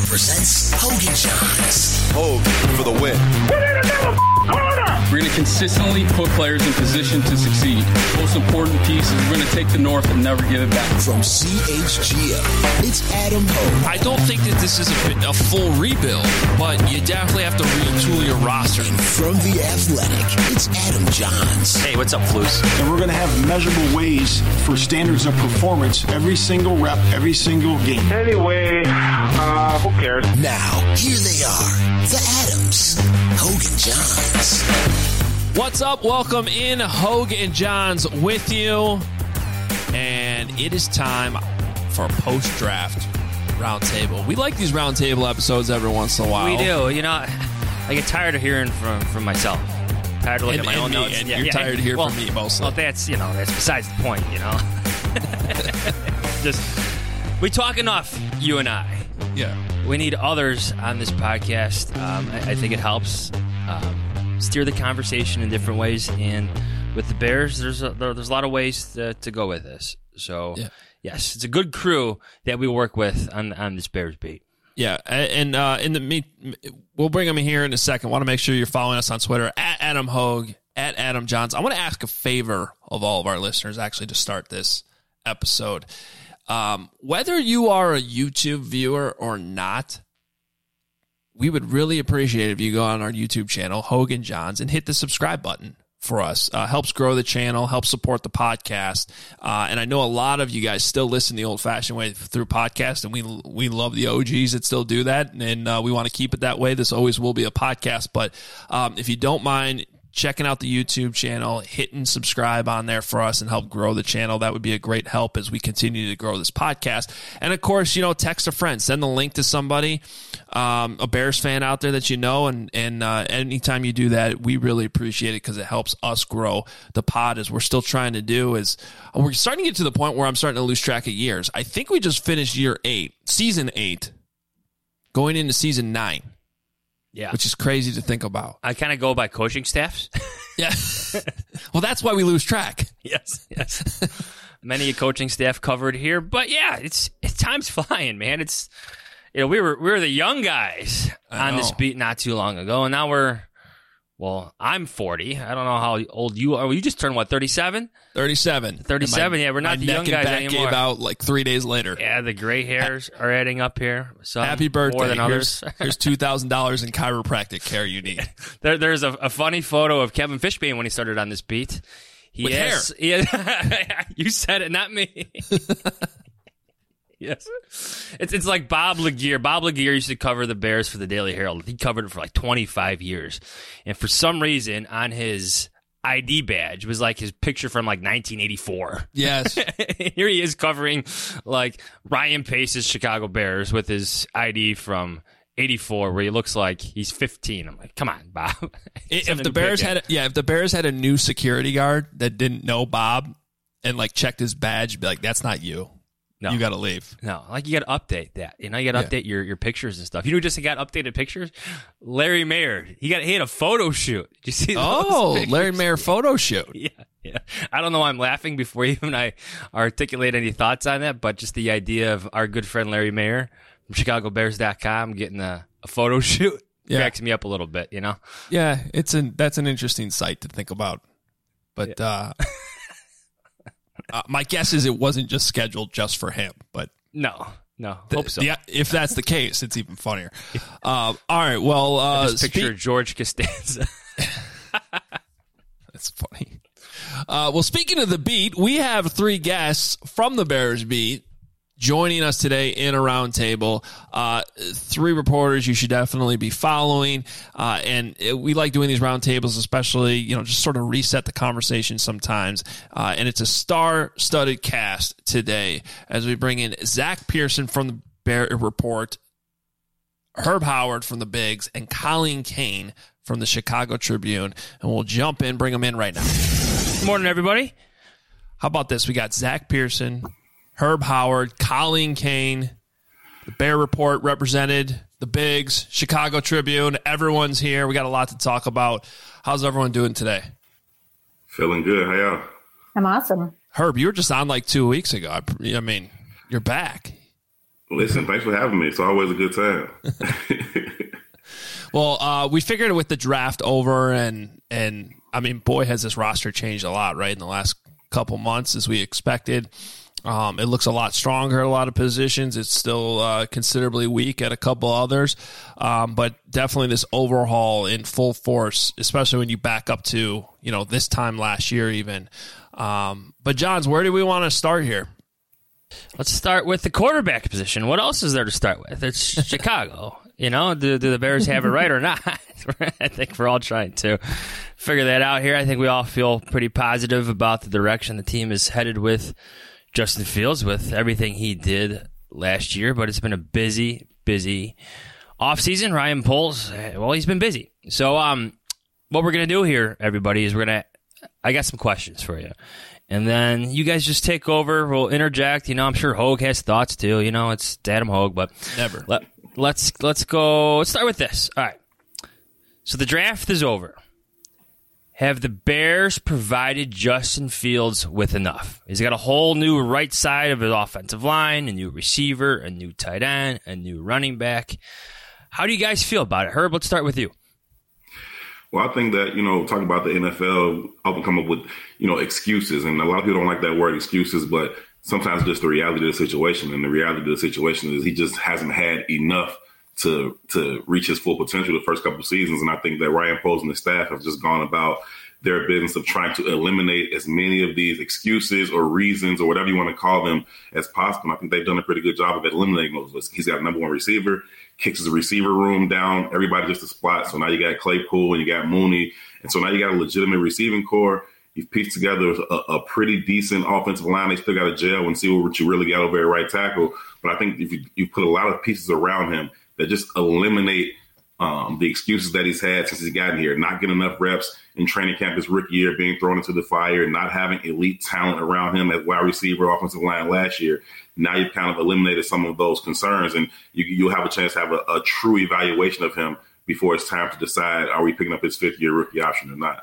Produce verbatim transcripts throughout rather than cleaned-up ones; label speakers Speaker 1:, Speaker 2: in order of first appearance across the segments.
Speaker 1: presents Hogan Johns.
Speaker 2: Hogue for the win.
Speaker 3: We're going to consistently put players in position to succeed. Most important piece is we're going to take the North and never give it back.
Speaker 1: From C H G O, it's Adam Hogue.
Speaker 4: I don't think that this is a, a full rebuild, but you definitely have to retool your roster.
Speaker 1: And from The Athletic, it's Adam Johns.
Speaker 5: Hey, what's up, Flus?
Speaker 6: And we're going to have measurable ways for standards of performance every single rep, every single game.
Speaker 7: Anyway, uh, who cares?
Speaker 1: Now, here they are, the Adams, Hogan Johns.
Speaker 4: What's up? Welcome in, Hogue and Johns with you. And it is time for a post-draft roundtable. We like these roundtable episodes every once in a while.
Speaker 5: We do. You know, I get tired of hearing from, from myself. Tired of looking
Speaker 4: and,
Speaker 5: at my
Speaker 4: and
Speaker 5: own
Speaker 4: me,
Speaker 5: notes.
Speaker 4: And
Speaker 5: yeah,
Speaker 4: you're
Speaker 5: yeah,
Speaker 4: tired of hearing
Speaker 5: well,
Speaker 4: from me mostly.
Speaker 5: Well, that's, you know, that's besides the point, you know. Just, we talk enough, you and I.
Speaker 4: Yeah.
Speaker 5: We need others on this podcast. Um, I, I think it helps um, steer the conversation in different ways. And with the Bears, there's a, there, there's a lot of ways to, to go with this. So,
Speaker 4: yeah.
Speaker 5: yes, it's a good crew that we work with on, on this Bears beat.
Speaker 4: Yeah, and uh, in the meet, we'll bring them in here in a second. Want to make sure you're following us on Twitter at Adam Hogue, at Adam Johns. I want to ask a favor of all of our listeners, actually, to start this episode. Um, whether you are a YouTube viewer or not, we would really appreciate it if you go on our YouTube channel, Hogue and Johns, and hit the subscribe button for us. Uh, helps grow the channel, helps support the podcast. Uh, and I know a lot of you guys still listen the old-fashioned way through podcasts, and we we love the O Gs that still do that, and uh, we want to keep it that way. This always will be a podcast. But um, if you don't mind checking out the YouTube channel, hitting subscribe on there for us and help grow the channel, that would be a great help as we continue to grow this podcast. And, of course, you know, text a friend. Send the link to somebody, um, a Bears fan out there that you know, and, and uh, anytime you do that, we really appreciate it because it helps us grow the pod as we're still trying to do. Is we're starting to get to the point where I'm starting to lose track of years. I think we just finished year eight, season eight, going into season nine.
Speaker 5: Yeah,
Speaker 4: which is crazy to think about.
Speaker 5: I kind of go by coaching staffs.
Speaker 4: Yeah. Well, that's why we lose track.
Speaker 5: Yes, yes. Many a coaching staff covered here, but yeah, it's it's time's flying, man. It's you know we were we were the young guys on this beat not too long ago, and now we're well. I'm forty. I don't know how old you are. You just turned what? thirty-seven.
Speaker 4: Thirty-seven.
Speaker 5: Thirty-seven.
Speaker 4: My,
Speaker 5: yeah, we're not the young guys
Speaker 4: neck and back
Speaker 5: anymore.
Speaker 4: Gave out like three days later.
Speaker 5: Yeah, the gray hairs are adding up here. Some
Speaker 4: Happy birthday!
Speaker 5: More than others.
Speaker 4: Here's, here's two thousand dollars in chiropractic care you need.
Speaker 5: There, there's a, a funny photo of Kevin Fishbane when he started on this beat. He
Speaker 4: With
Speaker 5: has,
Speaker 4: hair.
Speaker 5: Yeah, you said it, not me. Yes, it's it's like Bob Laguerre. Bob Laguerre used to cover the Bears for the Daily Herald. He covered it for like twenty-five years, and for some reason, on his I D badge was like his picture from like nineteen eighty-four.
Speaker 4: Yes,
Speaker 5: here he is covering like Ryan Pace's Chicago Bears with his I D from eighty-four, where he looks like he's fifteen. I'm like, come on, Bob.
Speaker 4: if the Bears had, a, yeah, if the Bears had a new security guard that didn't know Bob and like checked his badge, be like, that's not you. No. You got to leave.
Speaker 5: No, like you got to update that. You know, you got to
Speaker 4: yeah.
Speaker 5: update your, your pictures and stuff. You know who just got updated pictures? Larry Mayer. He got he had a photo shoot. Did you see those
Speaker 4: Oh,
Speaker 5: pictures?
Speaker 4: Larry Mayer photo shoot.
Speaker 5: Yeah, yeah. I don't know why I'm laughing before even I articulate any thoughts on that, but just the idea of our good friend Larry Mayer from Chicago Bears dot com getting a, a photo shoot yeah. cracks me up a little bit, you know?
Speaker 4: Yeah, it's an that's an interesting sight to think about. But yeah. uh Uh, my guess is it wasn't just scheduled just for him, but
Speaker 5: no, no,
Speaker 4: the,
Speaker 5: hope so.
Speaker 4: The, if that's the case, it's even funnier. Uh, all right, well, uh,
Speaker 5: I just picture spe- George Costanza.
Speaker 4: That's funny. Uh, well, speaking of the beat, we have three guests from the Bears beat joining us today in a roundtable. Uh, three reporters you should definitely be following. Uh, and it, we like doing these roundtables, especially, you know, just sort of reset the conversation sometimes. Uh, and it's a star-studded cast today as we bring in Zach Pearson from the Bear Report, Herb Howard from the Bigs, and Colleen Kane from the Chicago Tribune. And we'll jump in, bring them in right now.
Speaker 5: Good morning, everybody.
Speaker 4: How about this? We got Zach Pearson, Herb Howard, Colleen Kane, the Bear Report represented, the Bigs, Chicago Tribune. Everyone's here. We got a lot to talk about. How's everyone doing today?
Speaker 8: Feeling good. How y'all?
Speaker 9: I'm awesome.
Speaker 4: Herb, you were just on like two weeks ago. I, I mean, you're back.
Speaker 8: Listen, thanks for having me. It's always a good time.
Speaker 4: Well, uh, we figured with the draft over, and and I mean, boy, has this roster changed a lot, right, in the last couple months as we expected. Um, it looks a lot stronger at a lot of positions. It's still uh, considerably weak at a couple others, um, but definitely this overhaul in full force, especially when you back up to, you know, this time last year even. Um, but, Johns, where do we want to start here?
Speaker 5: Let's start with the quarterback position. What else is there to start with? It's Chicago. You know, do, do the Bears have it right or not? I think we're all trying to figure that out here. I think we all feel pretty positive about the direction the team is headed with Justin Fields, with everything he did last year. But it's been a busy, busy offseason. Ryan Poles, well, he's been busy. So um, what we're going to do here, everybody, is we're going to – I got some questions for you. And then you guys just take over. We'll interject. You know, I'm sure Hogue has thoughts too. You know, it's Adam Hogue, but
Speaker 4: never.
Speaker 5: Let, let's let's go. Let's start with this. All right. So the draft is over. Have the Bears provided Justin Fields with enough? He's got a whole new right side of his offensive line, a new receiver, a new tight end, a new running back. How do you guys feel about it? Herb, let's start with you.
Speaker 8: Well, I think that, you know, talking about the N F L, often come up with, you know, excuses. And a lot of people don't like that word excuses, but sometimes just the reality of the situation. And the reality of the situation is he just hasn't had enough to to reach his full potential the first couple of seasons. And I think that Ryan Poles and the staff have just gone about their business of trying to eliminate as many of these excuses or reasons or whatever you want to call them as possible. And I think they've done a pretty good job of eliminating those. He's got a number one receiver, kicks his receiver room down, everybody just a spot. So now you got Claypool and you got Mooney. And so now you got a legitimate receiving core. You've pieced together a, a pretty decent offensive line. They still got to gel and see what you really got over at right tackle. But I think if you, you put a lot of pieces around him that just eliminate um, the excuses that he's had since he's gotten here, not getting enough reps in training camp his rookie year, being thrown into the fire, not having elite talent around him as wide receiver, offensive line last year. Now you've kind of eliminated some of those concerns, and you, you'll have a chance to have a, a true evaluation of him before it's time to decide, are we picking up his fifth year rookie option or not?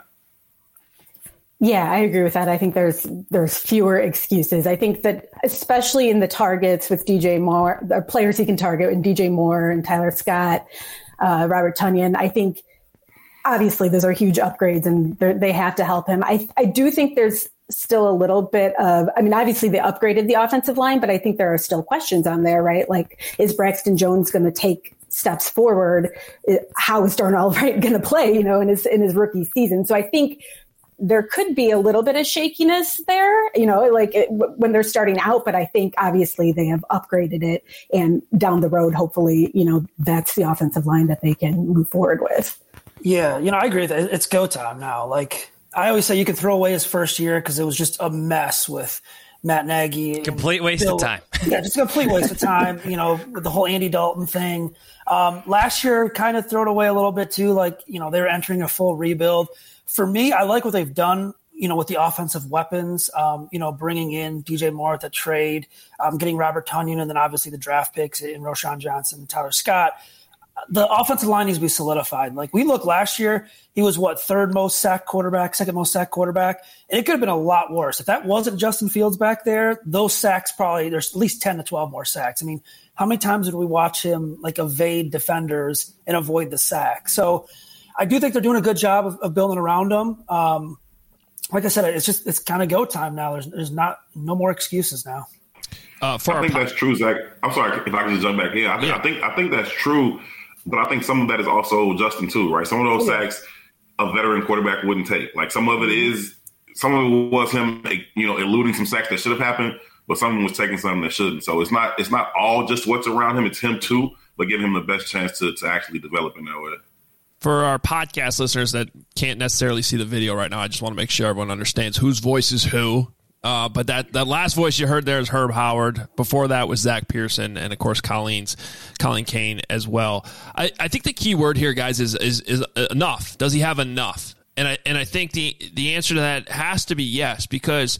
Speaker 2: Yeah, I agree with that. I think there's there's fewer excuses. I think that especially in the targets with D J Moore, the players he can target, and D J Moore and Tyler Scott, uh, Robert Tonyan, I think obviously those are huge upgrades and they have to help him. I I do think there's still a little bit of, I mean, obviously they upgraded the offensive line, but I think there are still questions on there, right? Like, is Braxton Jones going to take steps forward? How is Darnell Wright going to play, you know, in his in his rookie season? So I think there could be a little bit of shakiness there, you know, like it, when they're starting out, but I think obviously they have upgraded it, and down the road, hopefully, you know, that's the offensive line that they can move forward with.
Speaker 9: Yeah. You know, I agree with that. It's go time now. Like I always say, you can throw away his first year because it was just a mess with Matt Nagy.
Speaker 5: Complete waste
Speaker 9: Bill,
Speaker 5: of time.
Speaker 9: Yeah, just a complete waste of time, you know, with the whole Andy Dalton thing. Um, last year kind of thrown away a little bit too. Like, you know, they were entering a full rebuild. For me, I like what they've done, you know, with the offensive weapons, um, you know, bringing in D J Moore at the trade, um, getting Robert Tonyan, and then obviously the draft picks in Roschon Johnson and Tyler Scott. The offensive line needs to be solidified. Like we looked last year, he was what, third most sacked quarterback, second most sacked quarterback. And it could have been a lot worse. If that wasn't Justin Fields back there, those sacks probably, there's at least ten to twelve more sacks. I mean, how many times did we watch him like evade defenders and avoid the sack? So I do think they're doing a good job of, of building around him. Um, like I said, it's just, it's kind of go time now. There's, there's not, no more excuses now.
Speaker 8: Uh, for I think that's true, Zach. I'm sorry if I can just jump back in. I think, yeah. I think, I think that's true. But I think some of that is also Justin too, right? Some of those yeah. sacks a veteran quarterback wouldn't take. Like some of it is, some of it was him, you know, eluding some sacks that should have happened, but someone was taking something that shouldn't. So it's not, it's not all just what's around him. It's him too, but give him the best chance to, to actually develop in that way.
Speaker 4: For our podcast listeners that can't necessarily see the video right now, I just want to make sure everyone understands whose voice is who. Uh, but that, that last voice you heard there is Herb Howard. Before that was Zach Pearson, and of course Colleen's Colleen Kane as well. I, I think the key word here, guys, is is is enough. Does he have enough? And I and I think the the answer to that has to be yes, because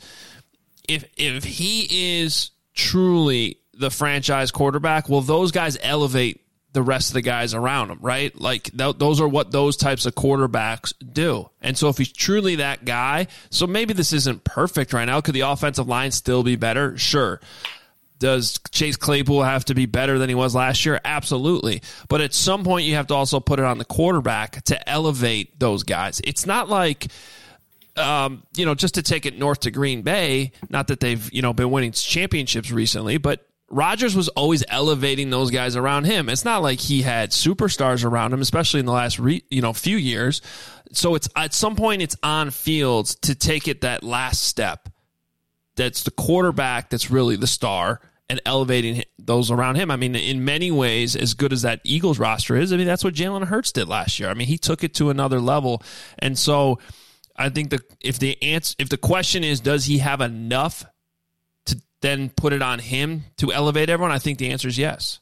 Speaker 4: if if he is truly the franchise quarterback, well, those guys elevate the rest of the guys around him, right? Like th- those are what those types of quarterbacks do. And so if he's truly that guy, so maybe this isn't perfect right now. Could the offensive line still be better? Sure. Does Chase Claypool have to be better than he was last year? Absolutely. But at some point, you have to also put it on the quarterback to elevate those guys. It's not like, um, you know, just to take it north to Green Bay, not that they've, you know, been winning championships recently, but Rodgers was always elevating those guys around him. It's not like he had superstars around him, especially in the last, re, you know, few years. So it's at some point, it's on Fields to take it that last step. That's the quarterback that's really the star and elevating those around him. I mean, in many ways, as good as that Eagles roster is, I mean, that's what Jalen Hurts did last year. I mean, he took it to another level. And so I think that if the answer, if the question is, does he have enough to then put it on him to elevate everyone? I think the answer is yes.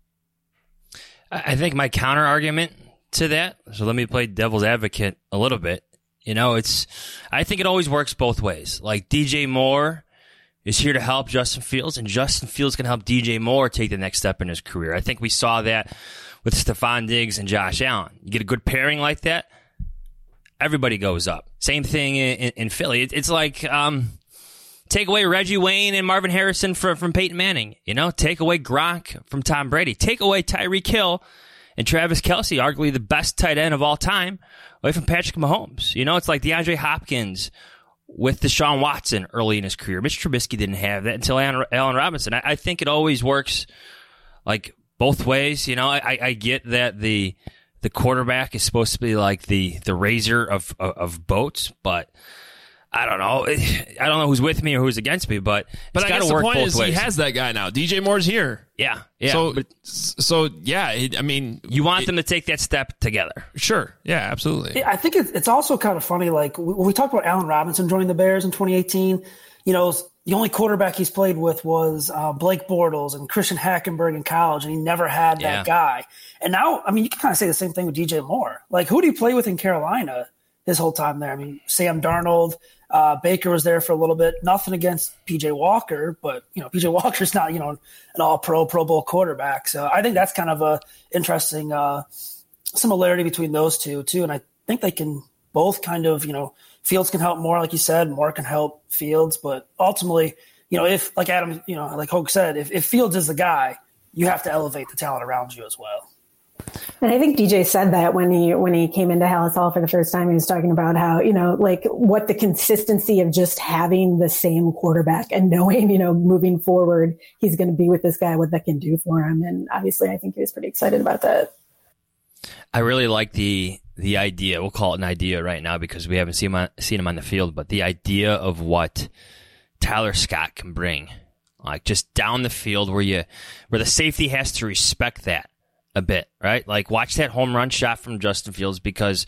Speaker 5: I think my counter argument to that, so let me play devil's advocate a little bit. You know, it's, I think it always works both ways. Like D J Moore is here to help Justin Fields, and Justin Fields can help D J Moore take the next step in his career. I think we saw that with Stephon Diggs and Josh Allen. You get a good pairing like that, everybody goes up. Same thing in, in, in Philly. It, it's like, um, take away Reggie Wayne and Marvin Harrison from, from Peyton Manning. You know, take away Gronk from Tom Brady. Take away Tyreek Hill and Travis Kelce, arguably the best tight end of all time, away from Patrick Mahomes. You know, it's like DeAndre Hopkins with Deshaun Watson early in his career. Mitch Trubisky didn't have that until Allen Robinson. I, I think it always works like both ways. You know, I, I get that the the quarterback is supposed to be like the the raiser of of, of boats, but I don't know. I don't know who's with me or who's against me, but
Speaker 4: but
Speaker 5: it's
Speaker 4: I
Speaker 5: got
Speaker 4: guess
Speaker 5: to work
Speaker 4: the point
Speaker 5: both
Speaker 4: is
Speaker 5: ways.
Speaker 4: He has that guy now. D J Moore's here.
Speaker 5: Yeah, yeah.
Speaker 4: So,
Speaker 5: but
Speaker 4: so yeah. It, I mean,
Speaker 5: you want
Speaker 4: it,
Speaker 5: them to take that step together.
Speaker 4: Sure. Yeah, absolutely.
Speaker 9: I think it's also kind of funny. Like when we talked about Allen Robinson joining the Bears in twenty eighteen, you know, the only quarterback he's played with was uh, Blake Bortles and Christian Hackenberg in college, and he never had that
Speaker 5: Yeah.
Speaker 9: guy. And now, I mean, you can kind of say the same thing with D J Moore. Like, who did he play with in Carolina his whole time there? I mean, Sam Darnold. Uh, Baker was there for a little bit. Nothing against P J Walker, but you know P J Walker's not you know an All-Pro, Pro Bowl quarterback. So I think that's kind of a interesting uh, similarity between those two too. And I think they can both kind of you know Fields can help Moore, like you said, Moore can help Fields. But ultimately, you know, if like Adam, you know, like Hogue said, if, if Fields is the guy, you have to elevate the talent around you as well.
Speaker 2: And I think D J said that when he when he came into Hallis Hall for the first time, he was talking about how, you know, like what the consistency of just having the same quarterback and knowing, you know, moving forward, he's going to be with this guy, what that can do for him. And obviously, I think he was pretty excited about that.
Speaker 5: I really like the the idea. We'll call it an idea right now because we haven't seen him on, seen him on the field, but the idea of what Tyler Scott can bring, like just down the field where you where the safety has to respect that a bit, right? Like watch that home run shot from Justin Fields because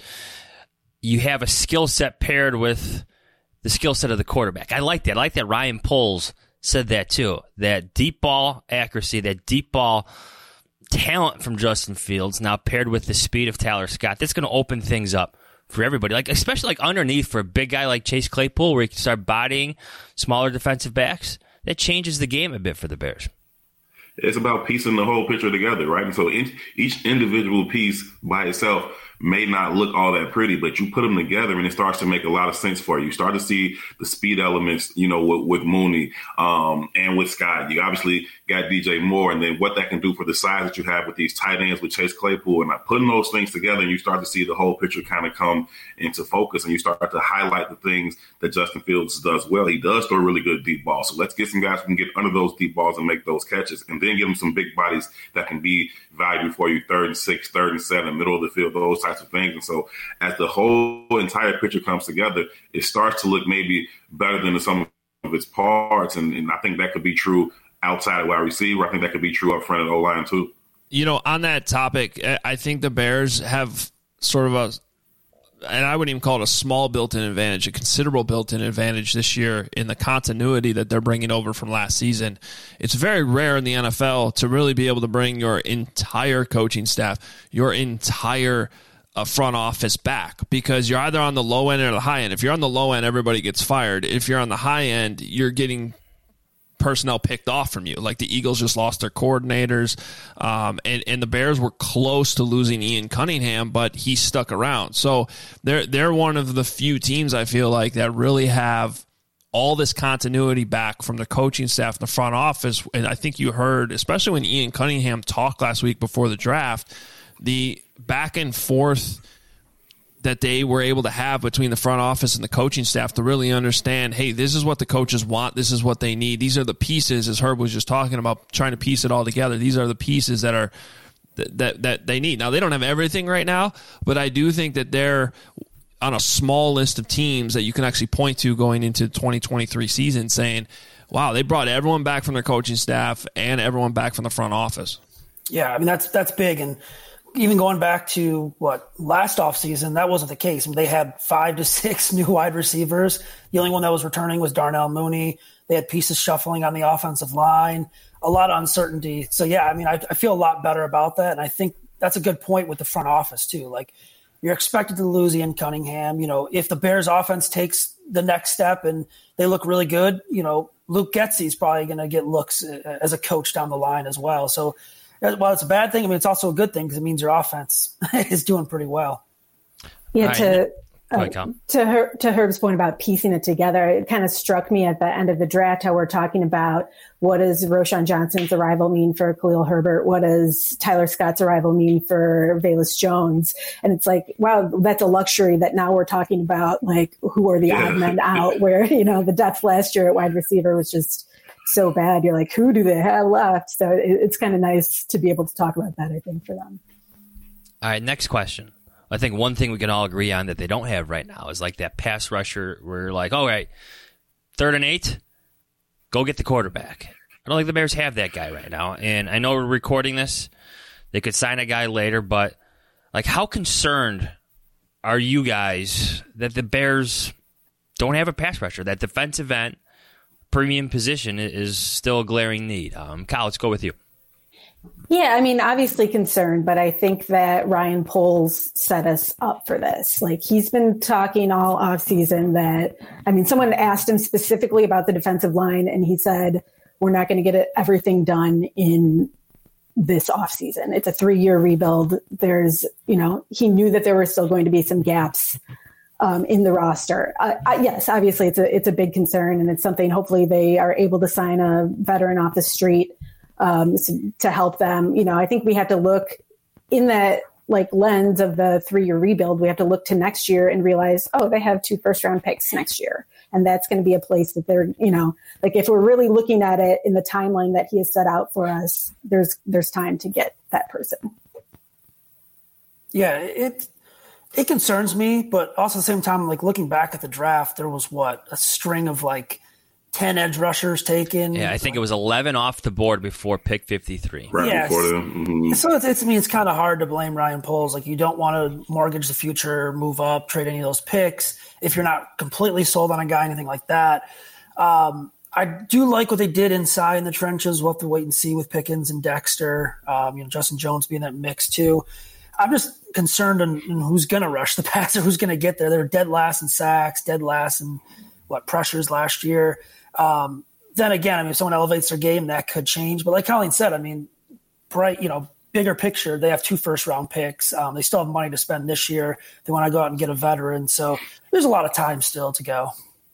Speaker 5: you have a skill set paired with the skill set of the quarterback. I like that. I like that Ryan Poles said that too. That deep ball accuracy, that deep ball talent from Justin Fields now paired with the speed of Tyler Scott. That's going to open things up for everybody. Like especially like underneath for a big guy like Chase Claypool where he can start bodying smaller defensive backs. That changes the game a bit for the Bears.
Speaker 8: It's about piecing the whole picture together, right? And so in, each individual piece by itself may not look all that pretty, but you put them together and it starts to make a lot of sense for you. You start to see the speed elements, you know, with, with Mooney um, and with Scott. You obviously got D J Moore, and then what that can do for the size that you have with these tight ends with Chase Claypool, and like putting those things together, and you start to see the whole picture kind of come into focus, and you start to highlight the things that Justin Fields does well. He does throw really good deep balls, so let's get some guys who can get under those deep balls and make those catches, and then give them some big bodies that can be valuable for you, third and six, third and seven, middle of the field, those types of things. And so as the whole entire picture comes together, it starts to look maybe better than the sum of its parts, and, and I think that could be true outside of wide receiver. I think that could be true up front at O-line too.
Speaker 4: You know, on that topic, I think the Bears have sort of a, and I wouldn't even call it a small built-in advantage, a considerable built-in advantage this year in the continuity that they're bringing over from last season. It's very rare in the N F L to really be able to bring your entire coaching staff, your entire uh, front office back, because you're either on the low end or the high end. If you're on the low end, everybody gets fired. If you're on the high end, you're getting personnel picked off from you. Like the Eagles just lost their coordinators, um, and, and the Bears were close to losing Ian Cunningham, but he stuck around. So they're they're one of the few teams I feel like that really have all this continuity back from the coaching staff in the front office. And I think you heard, especially when Ian Cunningham talked last week before the draft, the back and forth that they were able to have between the front office and the coaching staff to really understand, hey, this is what the coaches want. This is what they need. These are the pieces, as Herb was just talking about, trying to piece it all together. These are the pieces that are that that, that they need. Now, they don't have everything right now, but I do think that they're on a small list of teams that you can actually point to going into the twenty twenty-three season saying, wow, they brought everyone back from their coaching staff and everyone back from the front office.
Speaker 9: Yeah, I mean, that's that's big. And even going back to, what, last offseason, that wasn't the case. I mean, they had five to six new wide receivers. The only one that was returning was Darnell Mooney. They had pieces shuffling on the offensive line, a lot of uncertainty. So, yeah, I mean, I, I feel a lot better about that. And I think that's a good point with the front office, too. Like, you're expected to lose Ian Cunningham. You know, if the Bears offense takes the next step and they look really good, you know, Luke Getsy is probably going to get looks as a coach down the line as well. So while it's a bad thing, I mean, it's also a good thing because it means your offense is doing pretty well.
Speaker 2: Yeah,
Speaker 5: right.
Speaker 2: to
Speaker 5: Uh,
Speaker 2: to her, to Herb's point about piecing it together, it kind of struck me at the end of the draft how we're talking about what does Roschon Johnson's arrival mean for Khalil Herbert? What does Tyler Scott's arrival mean for Velus Jones? And it's like, wow, that's a luxury that now we're talking about, like, who are the odd men out, where, you know, the depth last year at wide receiver was just so bad. You're like, who do they have left? So it, it's kind of nice to be able to talk about that, I think, for them.
Speaker 5: All right, next question. I think one thing we can all agree on that they don't have right now is like that pass rusher where you're like, all right, third and eight, go get the quarterback. I don't think the Bears have that guy right now. And I know we're recording this. They could sign a guy later, but like, how concerned are you guys that the Bears don't have a pass rusher? That defensive end premium position is still a glaring need. Um, Kyle, let's go with you.
Speaker 2: Yeah, I mean, obviously concerned, but I think that Ryan Poles set us up for this. Like, he's been talking all offseason that, I mean, someone asked him specifically about the defensive line, and he said, we're not going to get everything done in this offseason. It's a three-year rebuild. There's, you know, he knew that there were still going to be some gaps um, in the roster. Uh, uh, yes, obviously it's a, it's a big concern, and it's something hopefully they are able to sign a veteran off the street Um, to help them. You know, I think we have to look in that like lens of the three-year rebuild. We have to look to next year and realize, oh, they have two first-round picks next year, and that's going to be a place that they're, you know, like if we're really looking at it in the timeline that he has set out for us, there's there's time to get that person.
Speaker 9: Yeah, it it concerns me, but also at the same time, like looking back at the draft, there was what a string of like ten edge rushers taken.
Speaker 5: Yeah, I think it was eleven off the board before pick fifty-three.
Speaker 8: Right
Speaker 9: yes.
Speaker 8: before them. Mm-hmm.
Speaker 9: So it's, it's, I mean, it's kind of hard to blame Ryan Poles. Like, you don't want to mortgage the future, move up, trade any of those picks if you're not completely sold on a guy, anything like that. Um, I do like what they did inside in the trenches. We'll have to wait and see with Pickens and Dexter. Um, you know, Justin Jones being that mix too. I'm just concerned on, on who's going to rush the passer, who's going to get there. They're dead last in sacks, dead last in what pressures last year. Um, then again, I mean, if someone elevates their game, that could change. But like Colleen said, I mean, bright, you know, bigger picture, they have two first round picks. Um, they still have money to spend this year. They want to go out and get a veteran. So there's a lot of time still to go.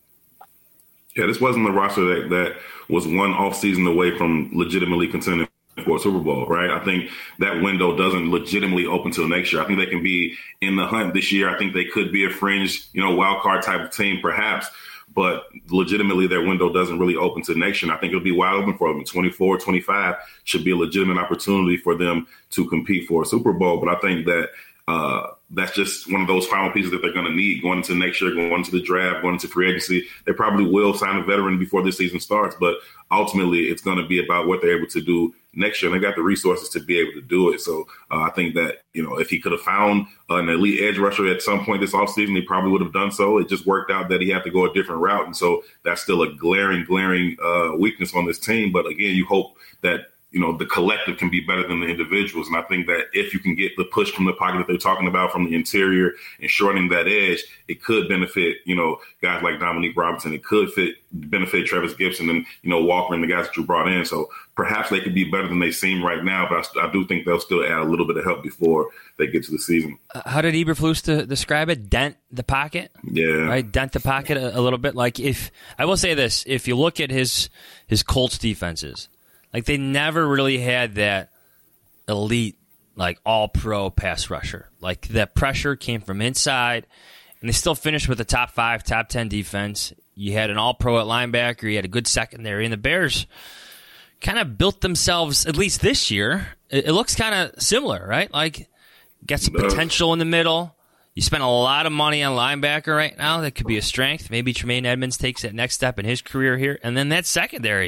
Speaker 8: Yeah, this wasn't the roster that, that was one off season away from legitimately contending for a Super Bowl, right? I think that window doesn't legitimately open till next year. I think they can be in the hunt this year. I think they could be a fringe, you know, wild card type of team, perhaps. But legitimately, their window doesn't really open to next year. And I think it'll be wide open for them. twenty-four, twenty-five should be a legitimate opportunity for them to compete for a Super Bowl. But I think that uh, that's just one of those final pieces that they're going to need going into next year, going into the draft, going into free agency. They probably will sign a veteran before this season starts. But ultimately, it's going to be about what they're able to do next year. And they got the resources to be able to do it. So uh, I think that, you know, if he could have found an elite edge rusher at some point this offseason, he probably would have done so. It just worked out that he had to go a different route. And so that's still a glaring, glaring uh, weakness on this team. But again, you hope that you know, the collective can be better than the individuals. And I think that if you can get the push from the pocket that they're talking about from the interior and shortening that edge, it could benefit, you know, guys like Dominique Robinson. It could fit benefit Travis Gibson and, you know, Walker and the guys that you brought in. So perhaps they could be better than they seem right now, but I, I do think they'll still add a little bit of help before they get to the season.
Speaker 5: Uh, how did Eberflus to describe it? Dent the pocket?
Speaker 8: Yeah.
Speaker 5: Right? Dent the pocket a, a little bit. Like, if I will say this, if you look at his his Colts defenses, like, they never really had that elite, like, all-pro pass rusher. Like, that pressure came from inside, and they still finished with a top five, top ten defense. You had an all-pro at linebacker. You had a good secondary. And the Bears kind of built themselves, at least this year, it, it looks kind of similar, right? Like, got some potential in the middle. You spent a lot of money on linebacker right now. That could be a strength. Maybe Tremaine Edmonds takes that next step in his career here. And then that secondary,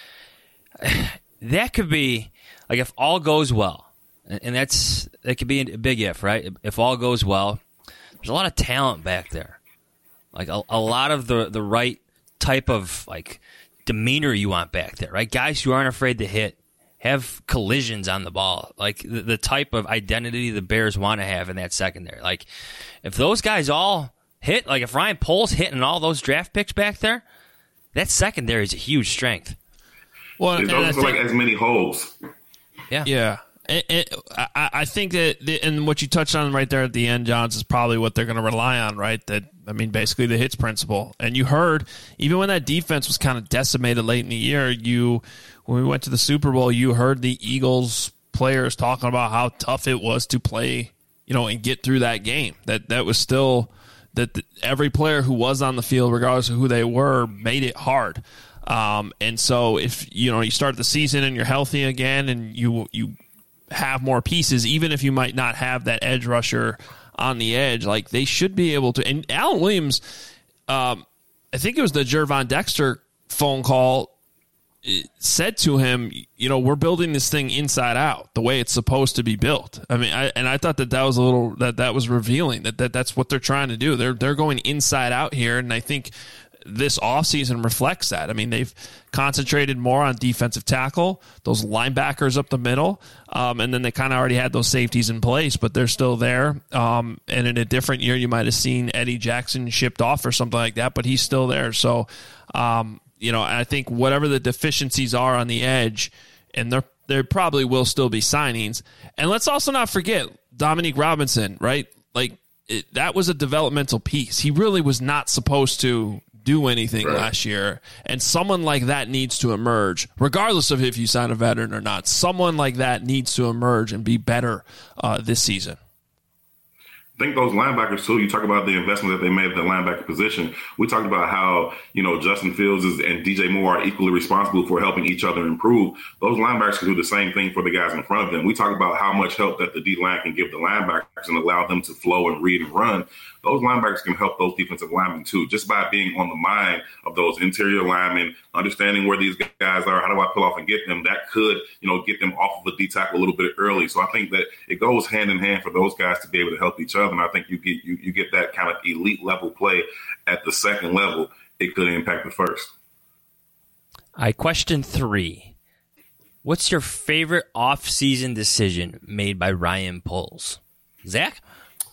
Speaker 5: that could be, like, if all goes well, and that's that could be a big if, right? If all goes well, there's a lot of talent back there. Like, a, a lot of the, the right type of, like, demeanor you want back there, right? Guys who aren't afraid to hit, have collisions on the ball, like the, the type of identity the Bears want to have in that secondary. Like, if those guys all hit, like if Ryan Poles hitting all those draft picks back there, that secondary is a huge strength.
Speaker 8: Well, it doesn't feel like as many holes.
Speaker 5: Yeah.
Speaker 4: Yeah. It, it, I, I think that, the, and what you touched on right there at the end, Johns, is probably what they're going to rely on, right? That, I mean, basically the hits principle. And you heard, even when that defense was kind of decimated late in the year, you, when we went to the Super Bowl, you heard the Eagles players talking about how tough it was to play, you know, and get through that game. That that was still, that the, every player who was on the field, regardless of who they were, made it hard. Um, and so if, you know, you start the season and you're healthy again and you you have more pieces, even if you might not have that edge rusher on the edge, like, they should be able to. And Alan Williams, um, I think it was the Gervon Dexter phone call, said to him, you know, we're building this thing inside out the way it's supposed to be built. I mean, I, and I thought that that was a little, that that was revealing that, that that's what they're trying to do. They're, they're going inside out here. And I think this offseason reflects that. I mean, they've concentrated more on defensive tackle, those linebackers up the middle, um, and then they kind of already had those safeties in place, but they're still there. Um, and in a different year, you might have seen Eddie Jackson shipped off or something like that, but he's still there. So, um, you know, I think whatever the deficiencies are on the edge, and there there probably will still be signings. And let's also not forget Dominique Robinson, right? Like, it, that was a developmental piece. He really was not supposed to do anything right. last year, and someone like that needs to emerge, regardless of if you sign a veteran or not. Someone like that needs to emerge and be better uh, this season.
Speaker 8: I think those linebackers, too, you talk about the investment that they made at the linebacker position. We talked about how, you know, Justin Fields is, and D J Moore are equally responsible for helping each other improve. Those linebackers can do the same thing for the guys in front of them. We talk about how much help that the D-line can give the linebackers and allow them to flow and read and run. Those linebackers can help those defensive linemen, too, just by being on the mind of those interior linemen, understanding where these guys are, how do I pull off and get them. That could, you know, get them off of the D tackle a little bit early. So I think that it goes hand in hand for those guys to be able to help each other. And I think you get you, you get that kind of elite level play at the second level. It could impact the first.
Speaker 5: All right, question three. What's your favorite off-season decision made by Ryan Poles? Zach?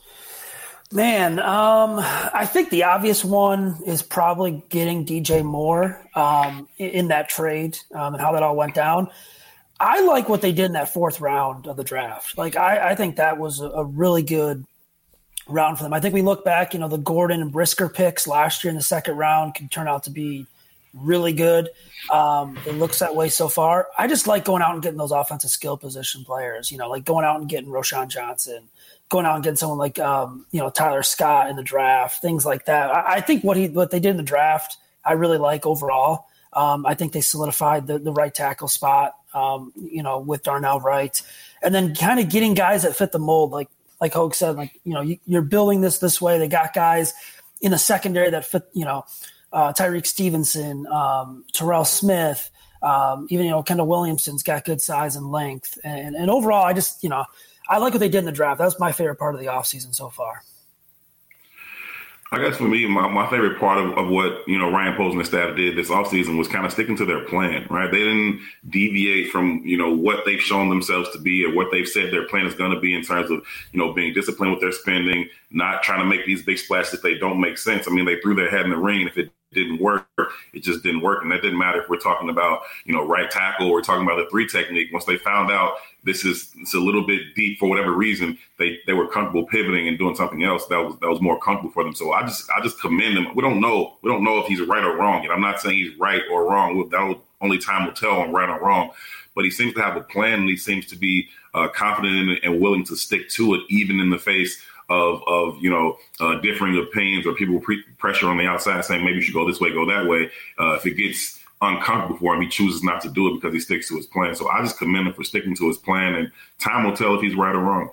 Speaker 9: Man, um, I think the obvious one is probably getting D J Moore um, in, in that trade um, and how that all went down. I like what they did in that fourth round of the draft. Like, I, I think that was a, a really good round for them. I think we look back, you know, the Gordon and Brisker picks last year in the second round can turn out to be really good. Um, it looks that way so far. I just like going out and getting those offensive skill position players, you know, like going out and getting Roschon Johnson, going out and getting someone like, um, you know, Tyler Scott in the draft, things like that. I, I think what he what they did in the draft, I really like overall. Um, I think they solidified the, the right tackle spot, um, you know, with Darnell Wright. And then kind of getting guys that fit the mold, like like Hogue said, like, you know, you, you're building this this way. They got guys in the secondary that fit, you know, uh, Tyreek Stevenson, um, Terrell Smith, um, even, you know, Kendall Williamson's got good size and length. And, and overall, I just, you know, I like what they did in the draft. That was my favorite part of the offseason so far.
Speaker 8: I guess for me, my, my favorite part of, of what, you know, Ryan Poles and the staff did this offseason was kind of sticking to their plan, right? They didn't deviate from, you know, what they've shown themselves to be or what they've said their plan is going to be in terms of, you know, being disciplined with their spending, not trying to make these big splashes if they don't make sense. I mean, they threw their head in the ring. If it didn't work, it just didn't work. And that didn't matter if we're talking about, you know, right tackle, we're talking about the three technique. Once they found out this is it's a little bit deep for whatever reason, they, they were comfortable pivoting and doing something else that was that was more comfortable for them. So I just I just commend him. We don't know we don't know if he's right or wrong. And I'm not saying he's right or wrong. That only time will tell on right or wrong. But he seems to have a plan, and he seems to be uh, confident in it and willing to stick to it, even in the face of, of you know, uh, differing opinions or people pre- pressure on the outside saying maybe you should go this way, go that way. Uh, if it gets uncomfortable for him, he chooses not to do it because he sticks to his plan. So I just commend him for sticking to his plan, and time will tell if he's right or wrong.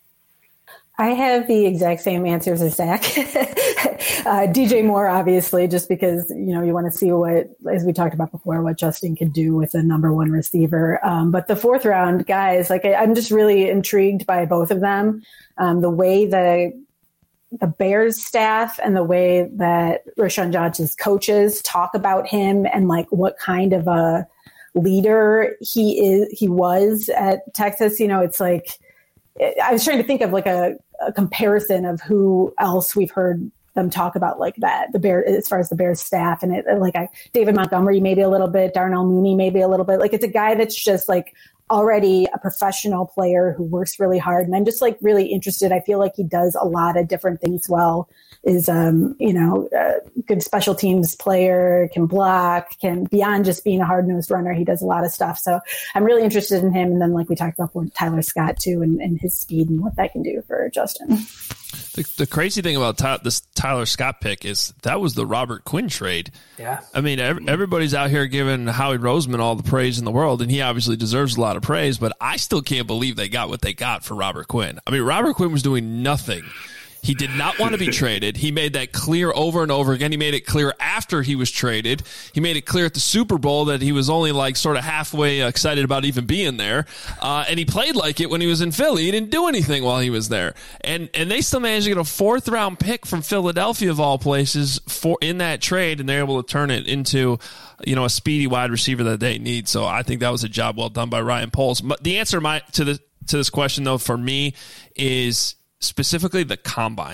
Speaker 2: I have the exact same answers as Zach. uh, D J Moore, obviously, just because, you know, you want to see what, as we talked about before, what Justin can do with a number one receiver. Um, but the fourth round guys, like I, I'm just really intrigued by both of them. Um, the way the the Bears staff and the way that Rashawn Johnson's coaches talk about him and like what kind of a leader he is, he was at Texas. You know, it's like, I was trying to think of like a, a comparison of who else we've heard them talk about like that, the Bear, as far as the Bears staff, and it like I, David Montgomery, maybe a little bit, Darnell Mooney, maybe a little bit. Like it's a guy that's just like already a professional player who works really hard. And I'm just like really interested. I feel like he does a lot of different things well, is, um, you know, a good special teams player, can block, can beyond just being a hard nosed runner. He does a lot of stuff. So I'm really interested in him. And then like we talked about with Tyler Scott too, and, and his speed and what that can do for Justin.
Speaker 4: The, the crazy thing about Ty, this Tyler Scott pick is that was the Robert Quinn trade.
Speaker 9: Yeah.
Speaker 4: I mean, every, everybody's out here giving Howie Roseman all the praise in the world, and he obviously deserves a lot of praise, but I still can't believe they got what they got for Robert Quinn. I mean, Robert Quinn was doing nothing. He did not want to be traded. He made that clear over and over again. He made it clear after he was traded. He made it clear at the Super Bowl that he was only like sort of halfway excited about even being there. Uh, and he played like it when he was in Philly. He didn't do anything while he was there. And and they still managed to get a fourth round pick from Philadelphia of all places for in that trade, and they're able to turn it into, you know, a speedy wide receiver that they need. So I think that was a job well done by Ryan Poles. But the answer my, to the to this question though for me is specifically the combine.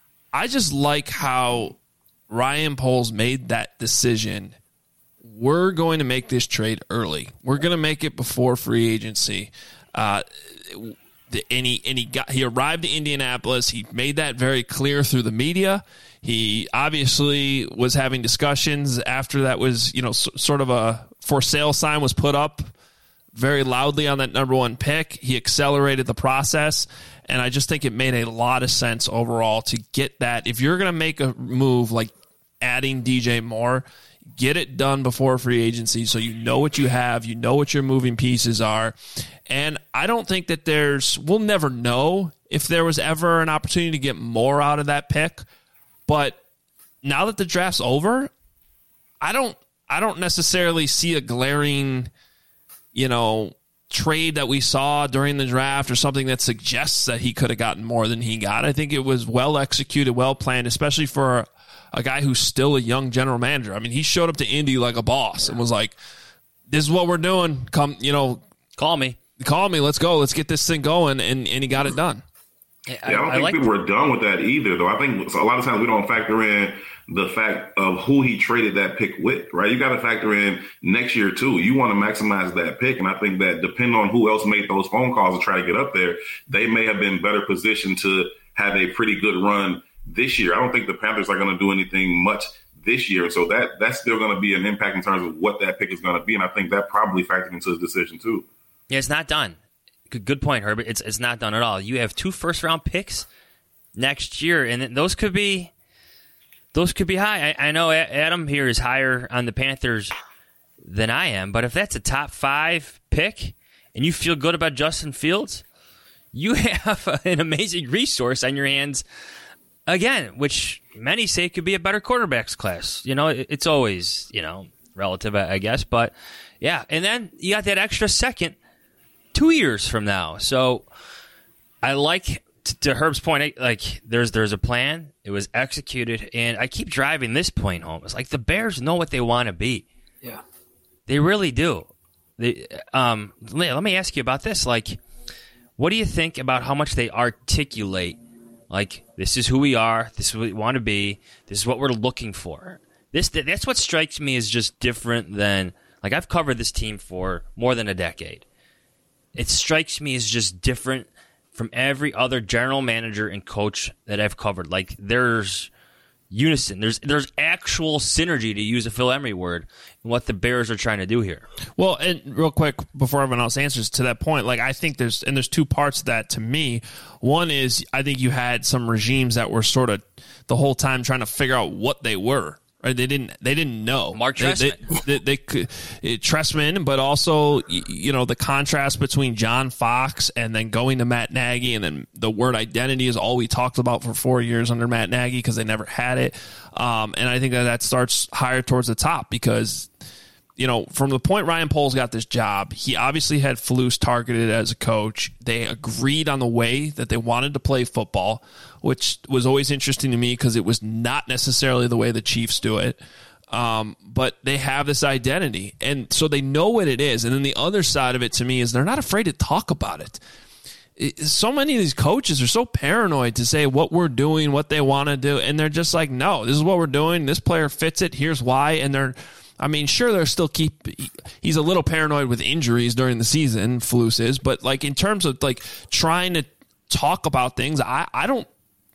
Speaker 4: I just like how Ryan Poles made that decision. We're going to make this trade early. We're going to make it before free agency. Uh, the, and he, and he, got, he arrived to Indianapolis. He made that very clear through the media. He obviously was having discussions after that was, you know, s- sort of a for sale sign was put up very loudly on that number one pick. He accelerated the process. And I just think it made a lot of sense overall to get that. If you're going to make a move like adding D J Moore, get it done before free agency so you know what you have, you know what your moving pieces are. And I don't think that there's, we'll never know if there was ever an opportunity to get more out of that pick. But now that the draft's over, I don't, I don't necessarily see a glaring, you know, trade that we saw during the draft or something that suggests that he could have gotten more than he got. I think it was well executed, well planned, especially for a, a guy who's still a young general manager. I mean, he showed up to Indy like a boss and was like, this is what we're doing. Come, you know,
Speaker 5: call me,
Speaker 4: call me. Let's go. Let's get this thing going. And, and he got it done.
Speaker 8: Yeah, I don't I, think I like people were done with that either, though. I think a lot of times we don't factor in the fact of who he traded that pick with, right? You got to factor in next year, too. You want to maximize that pick. And I think that depending on who else made those phone calls to try to get up there, they may have been better positioned to have a pretty good run this year. I don't think the Panthers are going to do anything much this year. So that that's still going to be an impact in terms of what that pick is going to be. And I think that probably factored into his decision, too.
Speaker 5: Yeah, it's not done. Good, good point, Herbert. It's it's not done at all. You have two first-round picks next year, and those could be those could be high. I, I know Adam here is higher on the Panthers than I am, but if that's a top five pick and you feel good about Justin Fields, you have an amazing resource on your hands again, which many say could be a better quarterbacks class. You know, it, it's always, you know, relative, I, I guess, but yeah. And then you got that extra second two years from now. So I like to, to Herb's point, like there's there's a plan. It was executed, and I keep driving this point home. It's like the Bears know what they want to be.
Speaker 9: Yeah,
Speaker 5: they really do. They, um, let me ask you about this. Like, what do you think about how much they articulate? Like, this is who we are. This is what we want to be. This is what we're looking for. This that's what strikes me as just different than like I've covered this team for more than a decade. It strikes me as just different from every other general manager and coach that I've covered. Like, there's unison. There's there's actual synergy, to use a Phil Emery word, in what the Bears are trying to do here.
Speaker 4: Well, and real quick, before everyone else answers to that point, like I think there's and there's two parts to that to me. One is I think you had some regimes that were sort of the whole time trying to figure out what they were. Right? They didn't. They didn't know.
Speaker 5: Mark
Speaker 4: Trestman. They, they, they, they could it, Trestman, but also you know the contrast between John Fox and then going to Matt Nagy, and then the word identity is all we talked about for four years under Matt Nagy because they never had it. Um, and I think that that starts higher towards the top because you know from the point Ryan Poles got this job, he obviously had Flus targeted as a coach. They agreed on the way that they wanted to play football, which was always interesting to me because it was not necessarily the way the Chiefs do it. Um, but they have this identity, and so they know what it is. And then the other side of it to me is they're not afraid to talk about it. it so many of these coaches are so paranoid to say what we're doing, what they want to do, and they're just like, no, this is what we're doing. This player fits it. Here's why. And they're I mean, sure, they're still keep. He's a little paranoid with injuries during the season, Flus is, but like in terms of like trying to talk about things, I, I don't.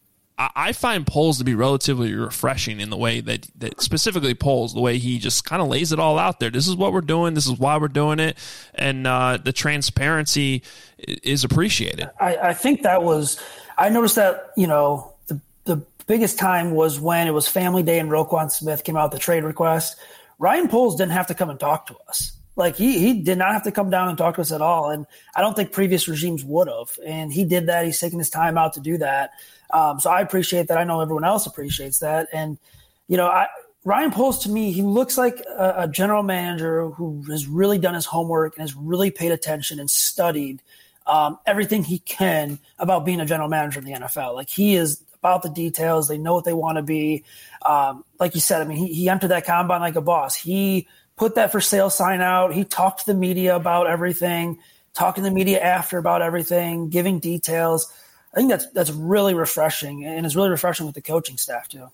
Speaker 4: I find Poles to be relatively refreshing in the way that, that specifically Poles, the way he just kind of lays it all out there. This is what we're doing. This is why we're doing it. And uh, the transparency is appreciated.
Speaker 9: I, I think that was, I noticed that, you know, the, the biggest time was when it was family day and Roquan Smith came out with the trade request. Ryan Poles didn't have to come and talk to us. Like he, he did not have to come down and talk to us at all. And I don't think previous regimes would have. And he did that. He's taking his time out to do that. Um, so I appreciate that. I know everyone else appreciates that. And, you know, I, Ryan Poles, to me, he looks like a, a general manager who has really done his homework and has really paid attention and studied um, everything he can about being a general manager in the N F L. Like he is about the details. They know what they want to be. Um, like you said, I mean, he, he entered that combine like a boss. He put that for sale sign out. He talked to the media about everything, talking to the media after about everything, giving details. I think that's that's really refreshing, and it's really refreshing with the coaching staff too.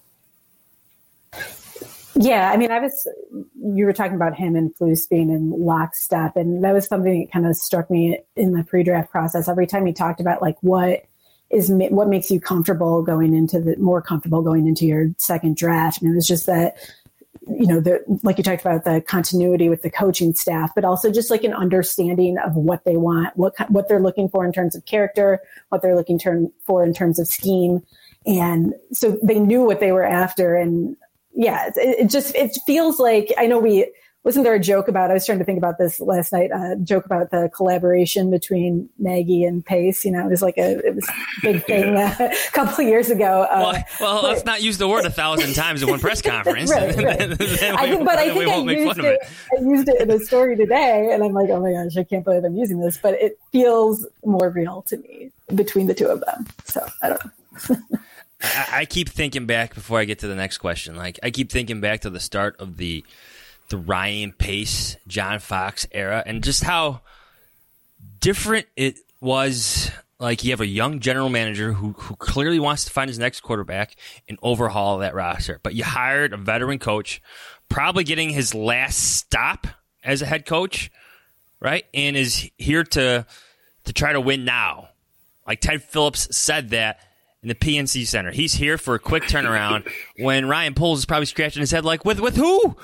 Speaker 2: Yeah, I mean, I was you were talking about him and Flus being in lockstep, and that was something that kind of struck me in the pre-draft process. Every time he talked about like what is what makes you comfortable going into the more comfortable going into your second draft, and it was just that. You know, the, like you talked about the continuity with the coaching staff, but also just like an understanding of what they want, what what they're looking for in terms of character, what they're looking term, for in terms of scheme. And so they knew what they were after. And yeah, it, it just, it feels like, I know we, wasn't there a joke about, I was trying to think about this last night, a uh, joke about the collaboration between Nagy and Pace. You know, it was like a, it was a big thing uh, a couple of years ago. Uh,
Speaker 5: well, well but, let's not use the word a thousand times in one press conference.
Speaker 2: right, right.
Speaker 5: then, then
Speaker 2: I think, but I think I used, it,
Speaker 5: it.
Speaker 2: I used it in a story today, and I'm like, oh my gosh, I can't believe I'm using this. But it feels more real to me between the two of them. So I don't know.
Speaker 5: I, I keep thinking back before I get to the next question. Like I keep thinking back to the start of the the Ryan Pace, John Fox era, and just how different it was. Like you have a young general manager who who clearly wants to find his next quarterback and overhaul that roster. But you hired a veteran coach, probably getting his last stop as a head coach, right? And is here to to try to win now. Like Ted Phillips said that in the P N C Center. He's here for a quick turnaround when Ryan Poles is probably scratching his head like, with with who?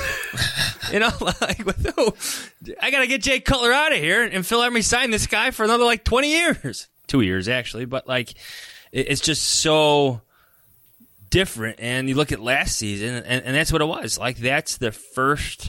Speaker 5: You know, like with who? I got to get Jay Cutler out of here and Phil Emery signed this guy for another like twenty years. Two years, actually. But like, it's just so different. And you look at last season, and, and that's what it was. Like, that's the first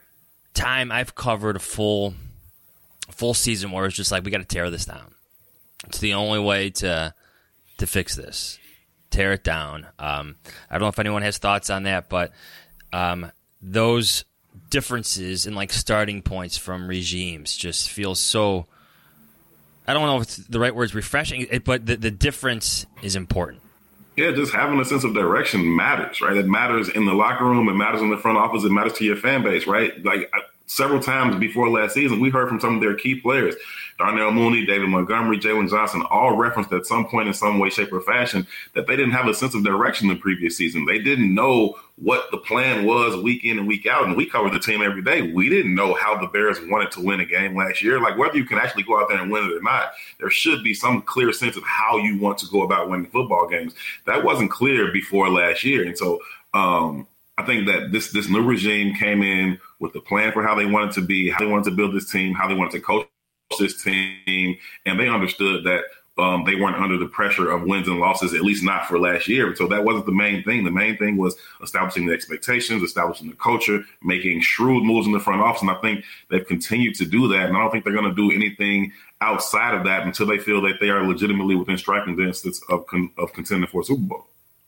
Speaker 5: time I've covered a full, full season where it's just like, we got to tear this down. It's the only way to to fix this. Tear it down. Um, I don't know if anyone has thoughts on that, but um, those differences in like starting points from regimes just feel so I don't know if it's the right word is refreshing, but the, the difference is important.
Speaker 8: Yeah, just having a sense of direction matters, right? It matters in the locker room. It matters in the front office. It matters to your fan base, right? Like I, several times before last season, we heard from some of their key players, Darnell Mooney, David Montgomery, Jalen Johnson, all referenced at some point in some way, shape, or fashion that they didn't have a sense of direction the previous season. They didn't know what the plan was week in and week out. And we covered the team every day. We didn't know how the Bears wanted to win a game last year. Like whether you can actually go out there and win it or not, there should be some clear sense of how you want to go about winning football games. That wasn't clear before last year. And so um, I think that this this new regime came in with a plan for how they wanted to be, how they wanted to build this team, how they wanted to coach this team, and they understood that um, they weren't under the pressure of wins and losses, at least not for last year. So that wasn't the main thing. The main thing was establishing the expectations, establishing the culture, making shrewd moves in the front office, and I think they've continued to do that, and I don't think they're going to do anything outside of that until they feel that they are legitimately within striking distance of, con- of contending for a Super Bowl.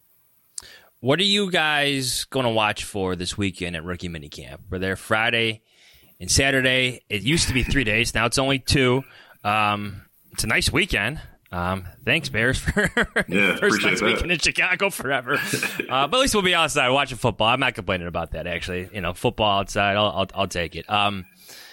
Speaker 5: What are you guys going to watch for this weekend at Rookie Minicamp? We're there Friday and Saturday. It used to be three days. Now it's only two. Um, it's a nice weekend. Um, thanks, Bears, for
Speaker 8: yeah,
Speaker 5: first nice
Speaker 8: that.
Speaker 5: weekend in Chicago forever. Uh, but at least we'll be outside watching football. I'm not complaining about that, actually. You know, football outside, I'll, I'll, I'll take it. Um,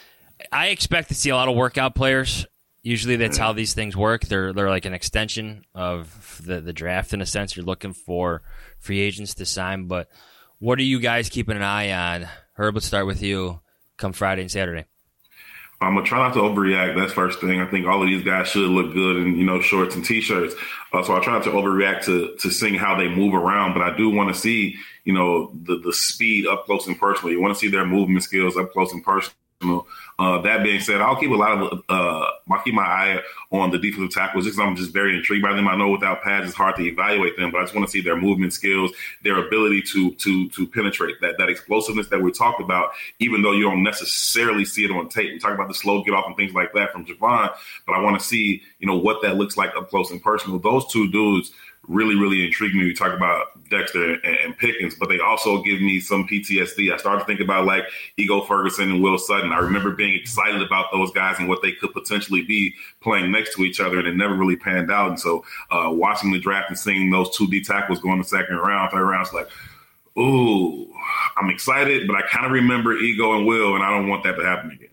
Speaker 5: I expect to see a lot of workout players. Usually that's how these things work. They're they're like an extension of the, the draft in a sense. You're looking for free agents to sign. But what are you guys keeping an eye on? Herb, let's start with you come Friday and Saturday.
Speaker 8: I'm going to try not to overreact. That's first thing. I think all of these guys should look good in, you know, shorts and T-shirts. Uh, so I try not to overreact to to seeing how they move around. But I do want to see, you know, the, the speed up close and personal. You want to see their movement skills up close and personal. Uh, that being said, I'll keep a lot of uh, I'll keep my eye on the defensive tackles just because I'm just very intrigued by them. I know without pads it's hard to evaluate them, but I just want to see their movement skills, their ability to to to penetrate, that that explosiveness that we talked about, even though you don't necessarily see it on tape. We talk about the slow get off and things like that from Javon, but I want to see, you know, what that looks like up close and personal. Those two dudes really, really intrigue me. We talk about Dexter and, and Pickens, but they also give me some P T S D. I started to think about like Ego Ferguson and Will Sutton. I remember being excited about those guys and what they could potentially be playing next to each other, and it never really panned out. And so uh, watching the draft and seeing those two D tackles go in the second round, third round, it's like, ooh, I'm excited, but I kind of remember Ego and Will, and I don't want that to happen again.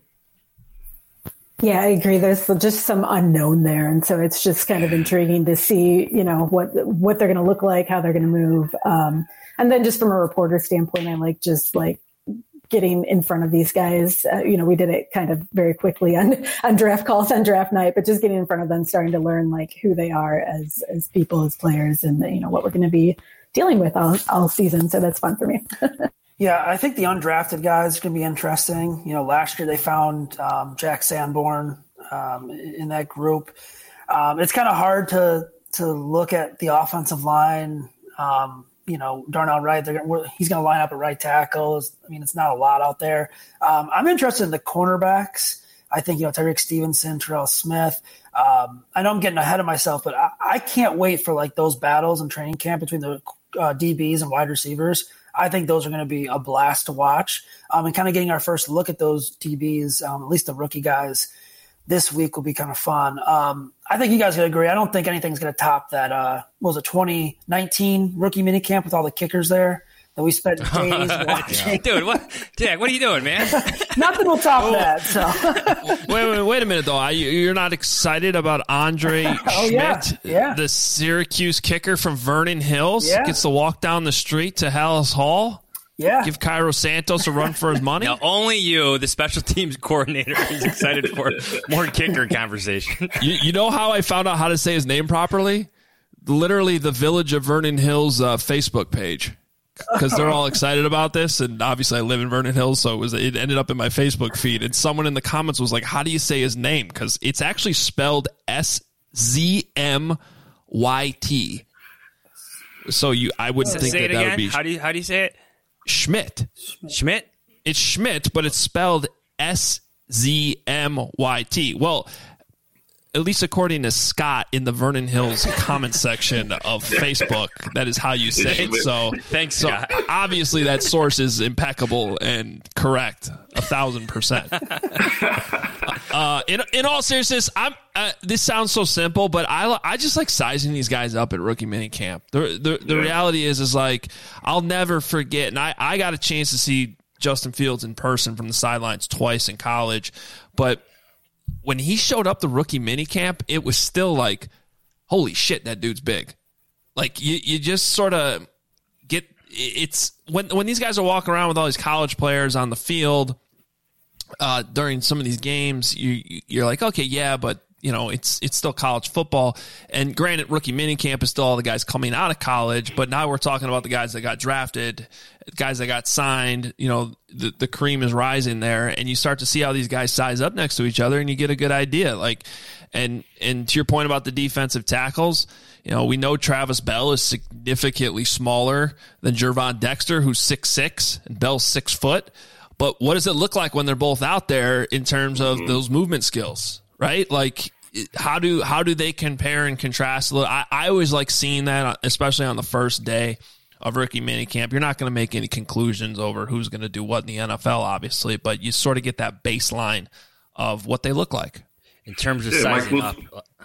Speaker 2: Yeah, I agree. There's just some unknown there. And so it's just kind of intriguing to see, you know, what what they're going to look like, how they're going to move. Um, and then just from a reporter standpoint, I like just like getting in front of these guys. Uh, you know, we did it kind of very quickly on, on draft calls on draft night, but just getting in front of them, starting to learn like who they are as as people, as players, and, you know, what we're going to be dealing with all, all season. So that's fun for me.
Speaker 9: Yeah, I think the undrafted guys are going to be interesting. You know, last year they found um, Jack Sanborn um, in that group. Um, it's kind of hard to to look at the offensive line. Um, you know, Darnell Wright, they're gonna, he's going to line up at right tackle. I mean, it's not a lot out there. Um, I'm interested in the cornerbacks. I think, you know, Tyreek Stevenson, Terrell Smith. Um, I know I'm getting ahead of myself, but I, I can't wait for like those battles in training camp between the uh, D Bs and wide receivers. I think those are going to be a blast to watch. Um, and kind of getting our first look at those D Bs, um, at least the rookie guys, this week will be kind of fun. Um, I think you guys would agree. I don't think anything's going to top that, uh, what was it, twenty nineteen rookie minicamp with all the kickers there that we spent days watching.
Speaker 5: Dude, what, Jack, what are you doing, man?
Speaker 9: Nothing will top oh. that. So.
Speaker 4: wait, wait, wait a minute, though. You're not excited about Andre
Speaker 9: oh,
Speaker 4: Schmidt,
Speaker 9: yeah. Yeah.
Speaker 4: the Syracuse kicker from Vernon Hills?
Speaker 9: Yeah.
Speaker 4: Gets to walk down the street to Hallis Hall?
Speaker 9: Yeah.
Speaker 4: Give Cairo Santos a run for his money?
Speaker 5: Now, only you, the special teams coordinator, is excited for more kicker conversation.
Speaker 4: You, you know how I found out how to say his name properly? Literally the Village of Vernon Hills uh, Facebook page. Because they're all excited about this, and obviously I live in Vernon Hills, so it was it ended up in my Facebook feed, and someone in the comments was like, how do you say his name? Because it's actually spelled S Z M Y T. So you, I wouldn't
Speaker 5: so
Speaker 4: think
Speaker 5: say
Speaker 4: that
Speaker 5: it
Speaker 4: that
Speaker 5: again?
Speaker 4: would be...
Speaker 5: How do you, how do you say it?
Speaker 4: Schmidt.
Speaker 5: Schmidt?
Speaker 4: It's Schmidt, but it's spelled S Z M Y T. Well, at least according to Scott in the Vernon Hills comment section of Facebook, that is how you say it. So
Speaker 5: thanks,
Speaker 4: so
Speaker 5: Scott.
Speaker 4: Obviously, that source is impeccable and correct, a thousand percent. Uh, in in all seriousness, I'm. Uh, this sounds so simple, but I I just like sizing these guys up at rookie minicamp. The the the yeah. reality is is like I'll never forget, and I I got a chance to see Justin Fields in person from the sidelines twice in college, but when he showed up the rookie minicamp, it was still like, holy shit, that dude's big. Like you, you just sort of get it's when when these guys are walking around with all these college players on the field uh, during some of these games, you you're like, okay, yeah, but you know, it's it's still college football. And granted, rookie minicamp is still all the guys coming out of college, but now we're talking about the guys that got drafted, guys that got signed. You know, the, the cream is rising there, and you start to see how these guys size up next to each other, and you get a good idea. Like, and and to your point about the defensive tackles, you know, we know Travis Bell is significantly smaller than Gervon Dexter, who's six six, and Bell's six foot. But what does it look like when they're both out there in terms of those movement skills? Right? Like, how do how do they compare and contrast? I, I always like seeing that, especially on the first day of rookie minicamp. You're not going to make any conclusions over who's going to do what in the N F L, obviously, but you sort of get that baseline of what they look like.
Speaker 5: In terms of yeah, sizing up.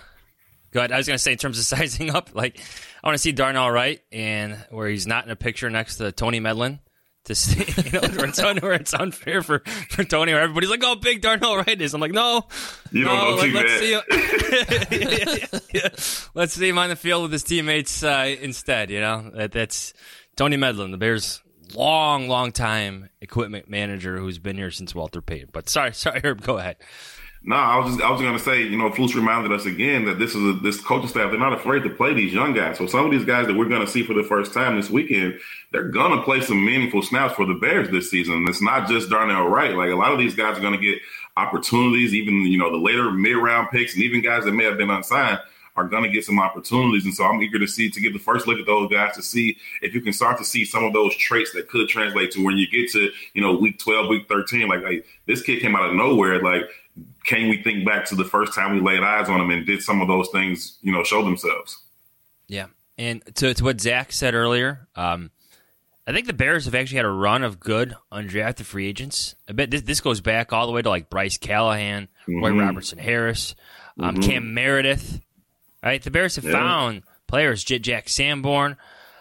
Speaker 5: Go ahead. I was going to say, in terms of sizing up, like, I want to see Darnell Wright, and where he's not in a picture next to Tony Medlin. To see, you know, where it's, un, where it's unfair for, for Tony, where everybody's like, "Oh, big Darnell Wright is." I'm like, "No,
Speaker 8: you don't
Speaker 5: no,
Speaker 8: know
Speaker 5: like, let's see, him. yeah, yeah, yeah. Let's see him on the field with his teammates uh, instead." You know, that, that's Tony Medlin, the Bears' long, long time equipment manager who's been here since Walter Payton. But sorry, sorry, Herb, go ahead.
Speaker 8: No, I was just I was going to say, you know, Flus reminded us again that this is a, this coaching staff, they're not afraid to play these young guys. So some of these guys that we're going to see for the first time this weekend, they're going to play some meaningful snaps for the Bears this season. And it's not just Darnell Wright. Like, a lot of these guys are going to get opportunities, even, you know, the later mid-round picks, and even guys that may have been unsigned are going to get some opportunities. And so I'm eager to see, to get the first look at those guys to see if you can start to see some of those traits that could translate to when you get to, you know, week twelve, week thirteen. Like, like this kid came out of nowhere. Like, can we think back to the first time we laid eyes on him and did some of those things, you know, show themselves?
Speaker 5: Yeah. And to, to what Zach said earlier, um, I think the Bears have actually had a run of good undrafted free agents. I bet this, this goes back all the way to like Bryce Callahan, mm-hmm. Roy Robertson Harris, um, mm-hmm. Cam Meredith. Right? The Bears have yeah. found players, J- Jack Sanborn.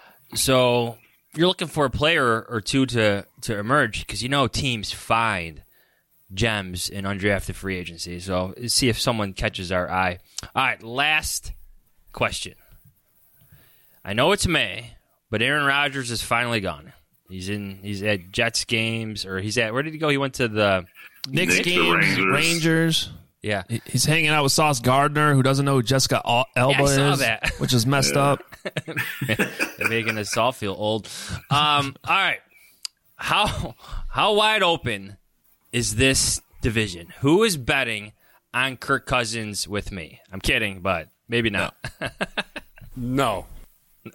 Speaker 5: So you're looking for a player or two to, to emerge because you know teams find gems in undrafted free agency. So see if someone catches our eye. All right, last question. I know it's May, but Aaron Rodgers is finally gone. He's in. He's at Jets games, or he's at. Where did he go? He went to the
Speaker 4: Knicks
Speaker 8: Knicks
Speaker 4: games,
Speaker 8: Rangers.
Speaker 4: Rangers.
Speaker 5: Yeah,
Speaker 4: he's hanging out with Sauce Gardner, who doesn't know who Jessica Alba
Speaker 5: yeah, I saw
Speaker 4: is,
Speaker 5: that.
Speaker 4: which is messed
Speaker 8: yeah.
Speaker 4: up.
Speaker 5: They're making us all feel old. Um, all right, how how wide open is this division? Who is betting on Kirk Cousins with me? I'm kidding, but maybe not.
Speaker 10: No.
Speaker 5: no.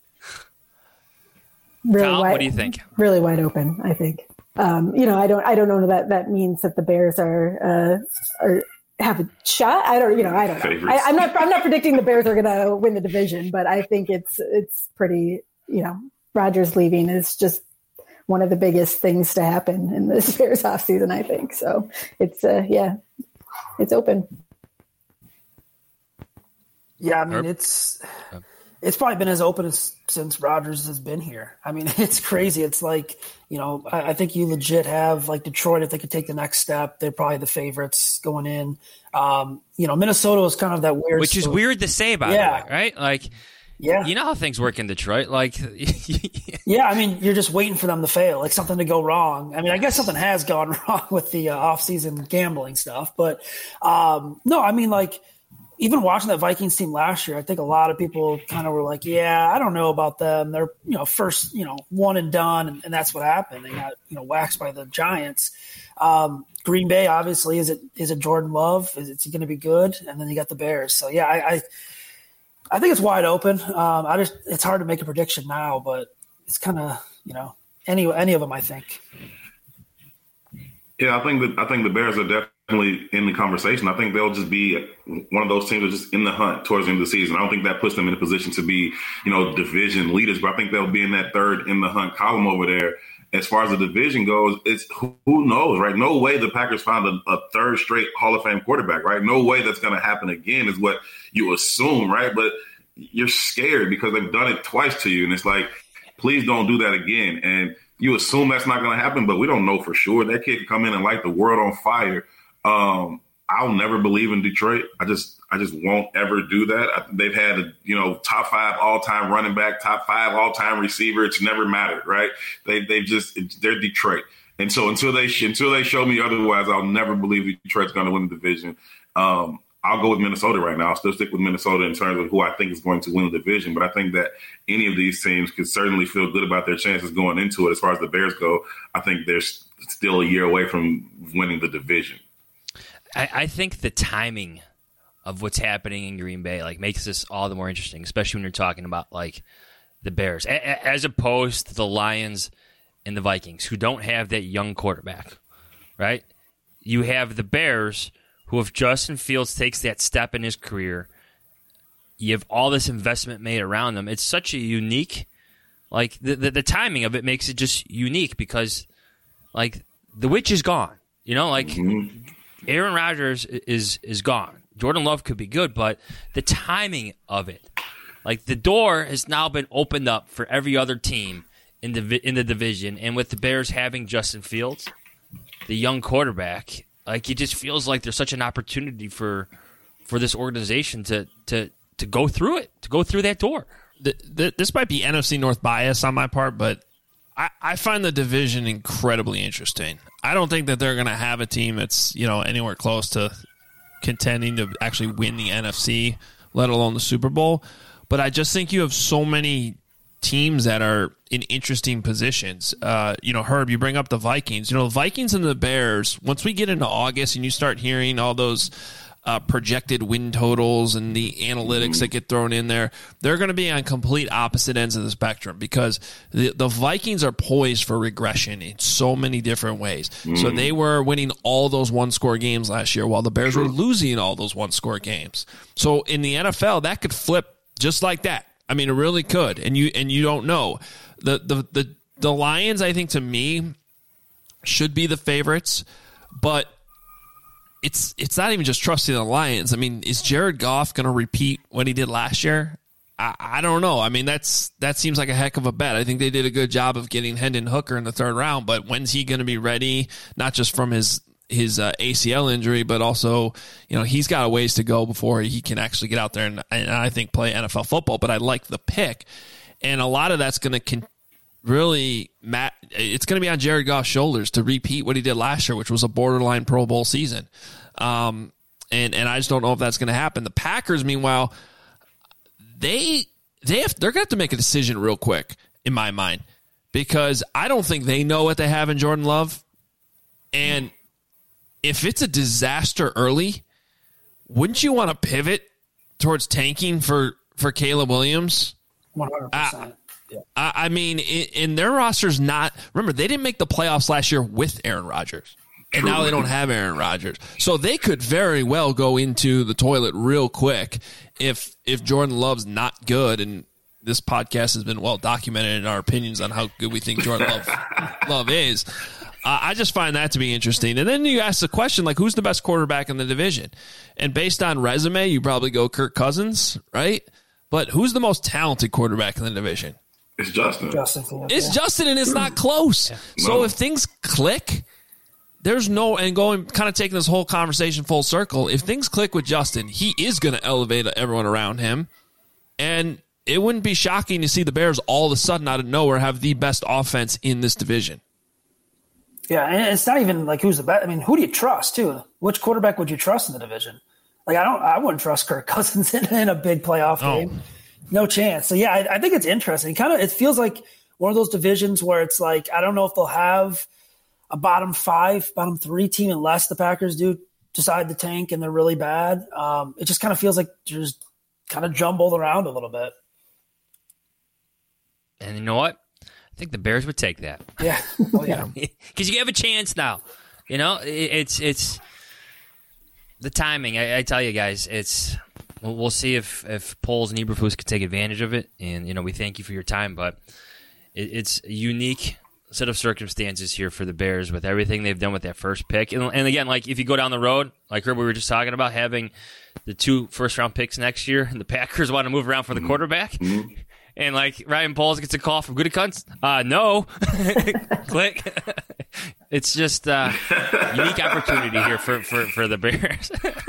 Speaker 2: Really
Speaker 5: Kyle,
Speaker 2: wide,
Speaker 5: what do you think?
Speaker 2: Really wide open, I think. Um, you know, I don't, I don't know that that means that the Bears are, uh, are have a shot. I don't, you know, I don't know. I, I'm not, I'm not predicting the Bears are going to win the division, but I think it's, it's pretty, you know, Rodgers leaving is just one of the biggest things to happen in this Bears offseason, I think. So it's, uh, yeah, it's open.
Speaker 9: Yeah, I mean, it's it's probably been as open as since Rodgers has been here. I mean, it's crazy. It's like, you know, I, I think you legit have like Detroit, if they could take the next step, they're probably the favorites going in. Um, you know, Minnesota is kind of that weird.
Speaker 5: Which is
Speaker 9: story.
Speaker 5: weird to say, by
Speaker 9: yeah.
Speaker 5: the way, right? Like,
Speaker 9: yeah,
Speaker 5: you know how things work in Detroit. Like,
Speaker 9: yeah, I mean, you're just waiting for them to fail, like something to go wrong. I mean, I guess something has gone wrong with the uh, off-season gambling stuff, but um, no, I mean, like, even watching that Vikings team last year, I think a lot of people kind of were like, yeah, I don't know about them. They're, you know, first, you know, one and done, and, and that's what happened. They got, you know, waxed by the Giants. Um, Green Bay, obviously, is it is it Jordan Love? Is it going to be good? And then you got the Bears. So, yeah, I I, I think it's wide open. Um, I just it's hard to make a prediction now, but it's kind of, you know, any any of them, I think.
Speaker 8: Yeah, I think that I think the Bears are definitely definitely in the conversation. I think they'll just be one of those teams that's just in the hunt towards the end of the season. I don't think that puts them in a position to be, you know, division leaders, but I think they'll be in that third in the hunt column over there. As far as the division goes, it's who knows, right? No way the Packers found a, a third straight Hall of Fame quarterback, right? No way that's going to happen again is what you assume, right? But you're scared because they've done it twice to you. And it's like, please don't do that again. And you assume that's not going to happen, but we don't know for sure. That kid can come in and light the world on fire. Um, I'll never believe in Detroit. I just I just won't ever do that. I, they've had a, you know, top five all-time running back, top five all-time receiver. It's never mattered, right? They they just they're Detroit, and so until they until they show me otherwise, I'll never believe Detroit's going to win the division. Um, I'll go with Minnesota right now. I'll still stick with Minnesota in terms of who I think is going to win the division. But I think that any of these teams could certainly feel good about their chances going into it. As far as the Bears go, I think they're still a year away from winning the division.
Speaker 5: I, I think the timing of what's happening in Green Bay like makes this all the more interesting, especially when you're talking about like the Bears, a- as opposed to the Lions and the Vikings, who don't have that young quarterback, right? You have the Bears, who if Justin Fields takes that step in his career, you have all this investment made around them. It's such a unique, like the the, the timing of it makes it just unique because, like, the witch is gone. You know, like mm-hmm. Aaron Rodgers is is gone. Jordan Love could be good, but the timing of it, like the door has now been opened up for every other team in the in the division, and with the Bears having Justin Fields, the young quarterback, like it just feels like there's such an opportunity for for this organization to to to go through it, to go through that door.
Speaker 4: The, the, this might be N F C North bias on my part, but I, I find the division incredibly interesting. I don't think that they're going to have a team that's, you know, anywhere close to contending to actually win the N F C, let alone the Super Bowl. But I just think you have so many teams that are in interesting positions. Uh, you know, Herb, you bring up the Vikings. You know, the Vikings and the Bears, once we get into August and you start hearing all those uh, projected win totals and the analytics that get thrown in there, they're going to be on complete opposite ends of the spectrum because the, the Vikings are poised for regression in so many different ways. Mm. So they were winning all those one-score games last year while the Bears were losing all those one-score games. So in the N F L, that could flip just like that. I mean, it really could, and you and you don't know. The the the, the Lions, I think, to me, should be the favorites, but it's it's not even just trusting the Lions. I mean, is Jared Goff going to repeat what he did last year? I, I don't know. I mean, that's that seems like a heck of a bet. I think they did a good job of getting Hendon Hooker in the third round, but when's he going to be ready? Not just from his his uh, A C L injury, but also, you know, he's got a ways to go before he can actually get out there and, and I think play N F L football. But I like the pick, and a lot of that's going to con- really mat- it's going to be on Jared Goff's shoulders to repeat what he did last year, which was a borderline Pro Bowl season. Um, and and I just don't know if that's going to happen. The Packers, meanwhile, they they have they're going to have to make a decision real quick in my mind because I don't think they know what they have in Jordan Love, and if it's a disaster early, wouldn't you want to pivot towards tanking for, for Caleb Williams?
Speaker 9: one hundred percent.
Speaker 4: Uh, yeah. I, I mean, in, in their roster's not – remember, they didn't make the playoffs last year with Aaron Rodgers, and now they don't have Aaron Rodgers. So they could very well go into the toilet real quick if if Jordan Love's not good, and this podcast has been well documented in our opinions on how good we think Jordan Love, Love is. Uh, I just find that to be interesting. And then you ask the question, like, who's the best quarterback in the division? And based on resume, you probably go Kirk Cousins, right? But who's the most talented quarterback in the division?
Speaker 8: It's Justin.
Speaker 9: Justin
Speaker 4: it's yeah. Justin, and it's not close. Yeah. So no. if things click, there's no – and going kind of taking this whole conversation full circle, if things click with Justin, he is going to elevate everyone around him. And it wouldn't be shocking to see the Bears all of a sudden out of nowhere have the best offense in this division.
Speaker 9: Yeah, and it's not even like who's the best. I mean, who do you trust too? Which quarterback would you trust in the division? Like, I don't, I wouldn't trust Kirk Cousins in, in a big playoff oh. game. No chance. So yeah, I, I think it's interesting. Kind of, it feels like one of those divisions where it's like I don't know if they'll have a bottom five, bottom three team unless the Packers do decide to tank and they're really bad. Um, it just kind of feels like they're just kind of jumbled around a little bit.
Speaker 5: And you know what? I think the Bears would take that.
Speaker 9: Yeah. Oh, yeah.
Speaker 5: Because you have a chance now. You know, it's it's the timing, I, I tell you guys, it's we'll, we'll see if if Poles and Eberflus can take advantage of it. And you know, we thank you for your time, but it, it's a unique set of circumstances here for the Bears with everything they've done with that first pick. And, and again, like if you go down the road, like Herb, we were just talking about having the two first round picks next year, and the Packers want to move around for the quarterback. Mm-hmm. And like Ryan Poles gets a call from Gutekunst. Uh, no. Click. It's just a uh, unique opportunity here for, for, for the Bears.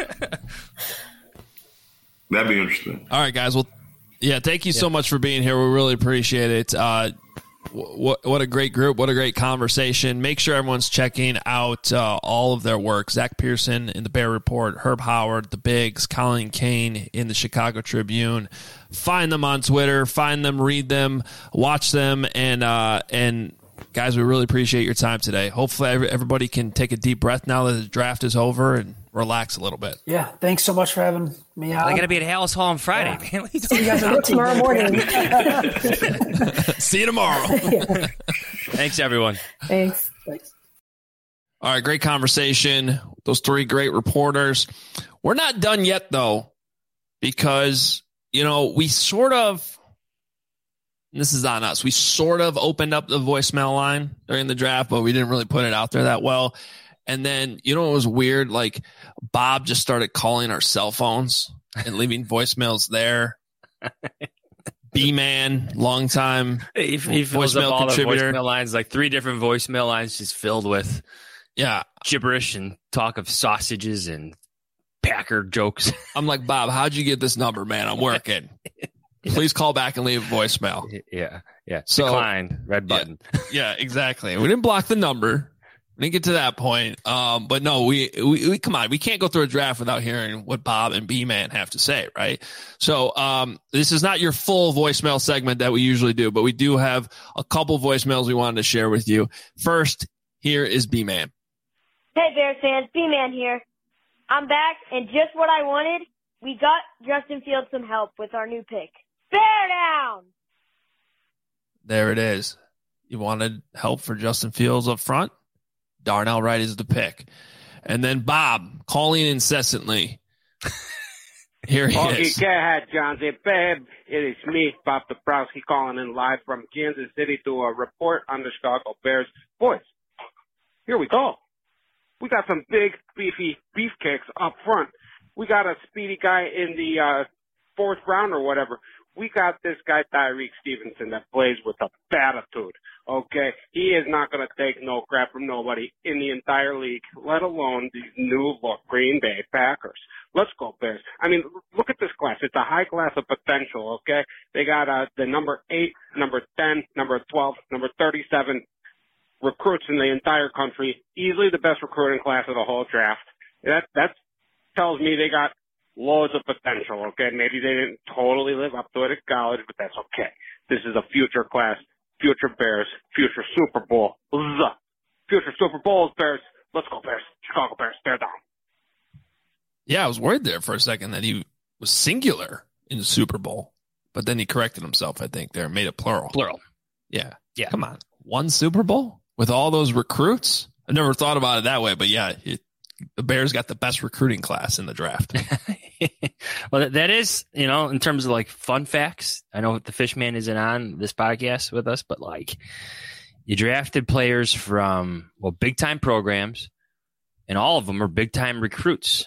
Speaker 8: That'd be interesting.
Speaker 4: All right, guys. Well, yeah, thank you yeah. so much for being here. We really appreciate it. Uh, what, what a great group. What a great conversation. Make sure everyone's checking out uh, all of their work. Zach Pearson in the Bear Report, Herb Howard, The Bigs, Colin Kane in the Chicago Tribune. Find them on Twitter. Find them, read them, watch them, and uh, and guys, we really appreciate your time today. Hopefully everybody can take a deep breath now that the draft is over and relax a little bit.
Speaker 9: Yeah, thanks so much for having me on.
Speaker 5: I got to be at Hallis Hall on Friday, yeah. man.
Speaker 9: See you guys tomorrow morning.
Speaker 4: See you tomorrow.
Speaker 5: Yeah. Thanks, everyone.
Speaker 2: Thanks. Thanks.
Speaker 4: All right, great conversation. Those three great reporters. We're not done yet, though, because, you know, we sort of, and this is on us, we sort of opened up the voicemail line during the draft, but we didn't really put it out there that well. And then, you know, it was weird. Like Bob just started calling our cell phones and leaving voicemails there. B-Man, long time
Speaker 5: he, he fills up all the voicemail lines, like three different voicemail lines just filled with
Speaker 4: yeah
Speaker 5: gibberish and talk of sausages and Packer jokes.
Speaker 4: I'm like, Bob, how'd you get this number, man? I'm working. Please call back and leave a voicemail.
Speaker 5: Yeah, yeah.
Speaker 4: So,
Speaker 5: decline, red button.
Speaker 4: Yeah, yeah, exactly. We didn't block the number. We didn't get to that point. Um, but no, we, we, we, come on, we can't go through a draft without hearing what Bob and B-Man have to say, right? So, um, this is not your full voicemail segment that we usually do, but we do have a couple voicemails we wanted to share with you. First, here is B-Man.
Speaker 11: Hey, Bears fans, B-Man here. I'm back, and just what I wanted, we got Justin Fields some help with our new pick. Bear down!
Speaker 4: There it is. You wanted help for Justin Fields up front? Darnell Wright is the pick. And then Bob calling incessantly. Here he
Speaker 12: okay,
Speaker 4: is.
Speaker 12: Okay, go ahead, John. Babe, it is me, Bob Dabrowski, calling in live from Kansas City to a report on the Chicago Bears. Boys, here we go. We got some big, beefy beefcakes up front. We got a speedy guy in the uh, fourth round or whatever. We got this guy, Tyreek Stevenson, that plays with a attitude. Okay, he is not going to take no crap from nobody in the entire league, let alone these new look Green Bay Packers. Let's go Bears. I mean, look at this class. It's a high class of potential, okay? They got uh, the number eight, number ten, number twelve, number thirty-seven recruits in the entire country. Easily the best recruiting class of the whole draft. That, that tells me they got loads of potential, okay? Maybe they didn't totally live up to it at college, but that's okay. This is a future class. Future Bears, future Super Bowl, future Super Bowls, Bears. Let's go, Bears. Chicago Bears, bear down.
Speaker 4: Yeah, I was worried there for a second that he was singular in the Super Bowl, but then he corrected himself, I think, there, made it plural.
Speaker 5: Plural.
Speaker 4: Yeah.
Speaker 5: Yeah.
Speaker 4: Come on. One Super Bowl with all those recruits? I never thought about it that way, but yeah, it, the Bears got the best recruiting class in the draft.
Speaker 5: Well, that is, you know, in terms of like fun facts. I know the Fishman isn't on this podcast with us, but like you drafted players from, well, big time programs, and all of them are big time recruits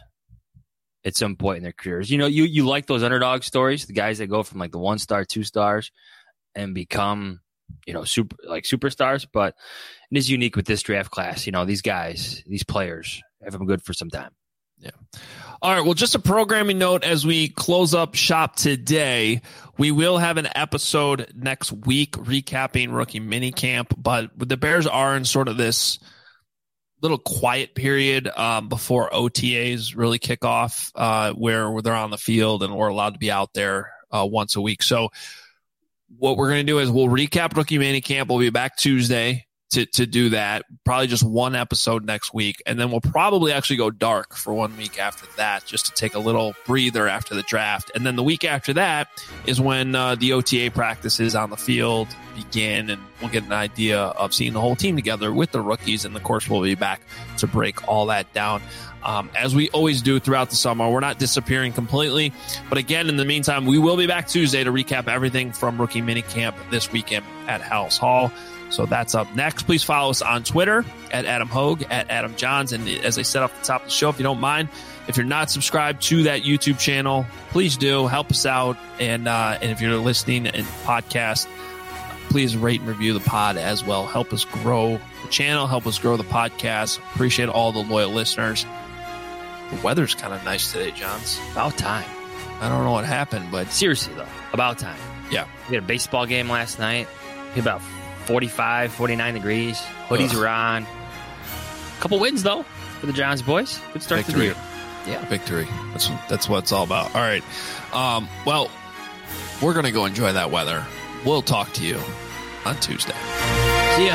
Speaker 5: at some point in their careers. You know, you, you like those underdog stories, the guys that go from like the one star, two stars and become, you know, super like superstars, but it is unique with this draft class. You know, these guys, these players have them good for some time.
Speaker 4: Yeah. All right. Well, just a programming note as we close up shop today. We will have an episode next week recapping rookie minicamp, but the Bears are in sort of this little quiet period um, before O T As really kick off, uh, where, where they're on the field and we're allowed to be out there uh, once a week. So what we're going to do is we'll recap rookie minicamp. We'll be back Tuesday to to do that. Probably just one episode next week, and then we'll probably actually go dark for one week after that, just to take a little breather after the draft. And then the week after that is when uh, the O T A practices on the field begin, and we'll get an idea of seeing the whole team together with the rookies. And of course, we'll be back to break all that down. Um, as we always do throughout the summer, we're not disappearing completely. But again, in the meantime, we will be back Tuesday to recap everything from rookie minicamp this weekend at House Hall. So that's up next. Please follow us on Twitter at Adam Hogue, at Adam Johns. And as I said off the top of the show, if you don't mind, if you're not subscribed to that YouTube channel, please do. Help us out. And, uh, and if you're listening in podcast, please rate and review the pod as well. Help us grow the channel. Help us grow the podcast. Appreciate all the loyal listeners. The weather's kind of nice today, Johns.
Speaker 5: About time.
Speaker 4: I don't know what happened, but
Speaker 5: seriously, though, about time.
Speaker 4: Yeah.
Speaker 5: We had a baseball game last night. About forty-five, forty-nine degrees. Hoodies
Speaker 4: Ugh.
Speaker 5: were on. A couple wins, though, for the Johns boys. Good start
Speaker 4: Victory.
Speaker 5: to the year. Yeah.
Speaker 4: Victory. That's, that's what it's all about. All right. Um, well, we're going to go enjoy that weather. We'll talk to you on Tuesday.
Speaker 5: See ya.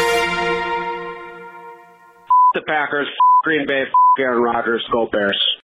Speaker 12: The Packers, Green Bay, Aaron Rodgers, go Bears.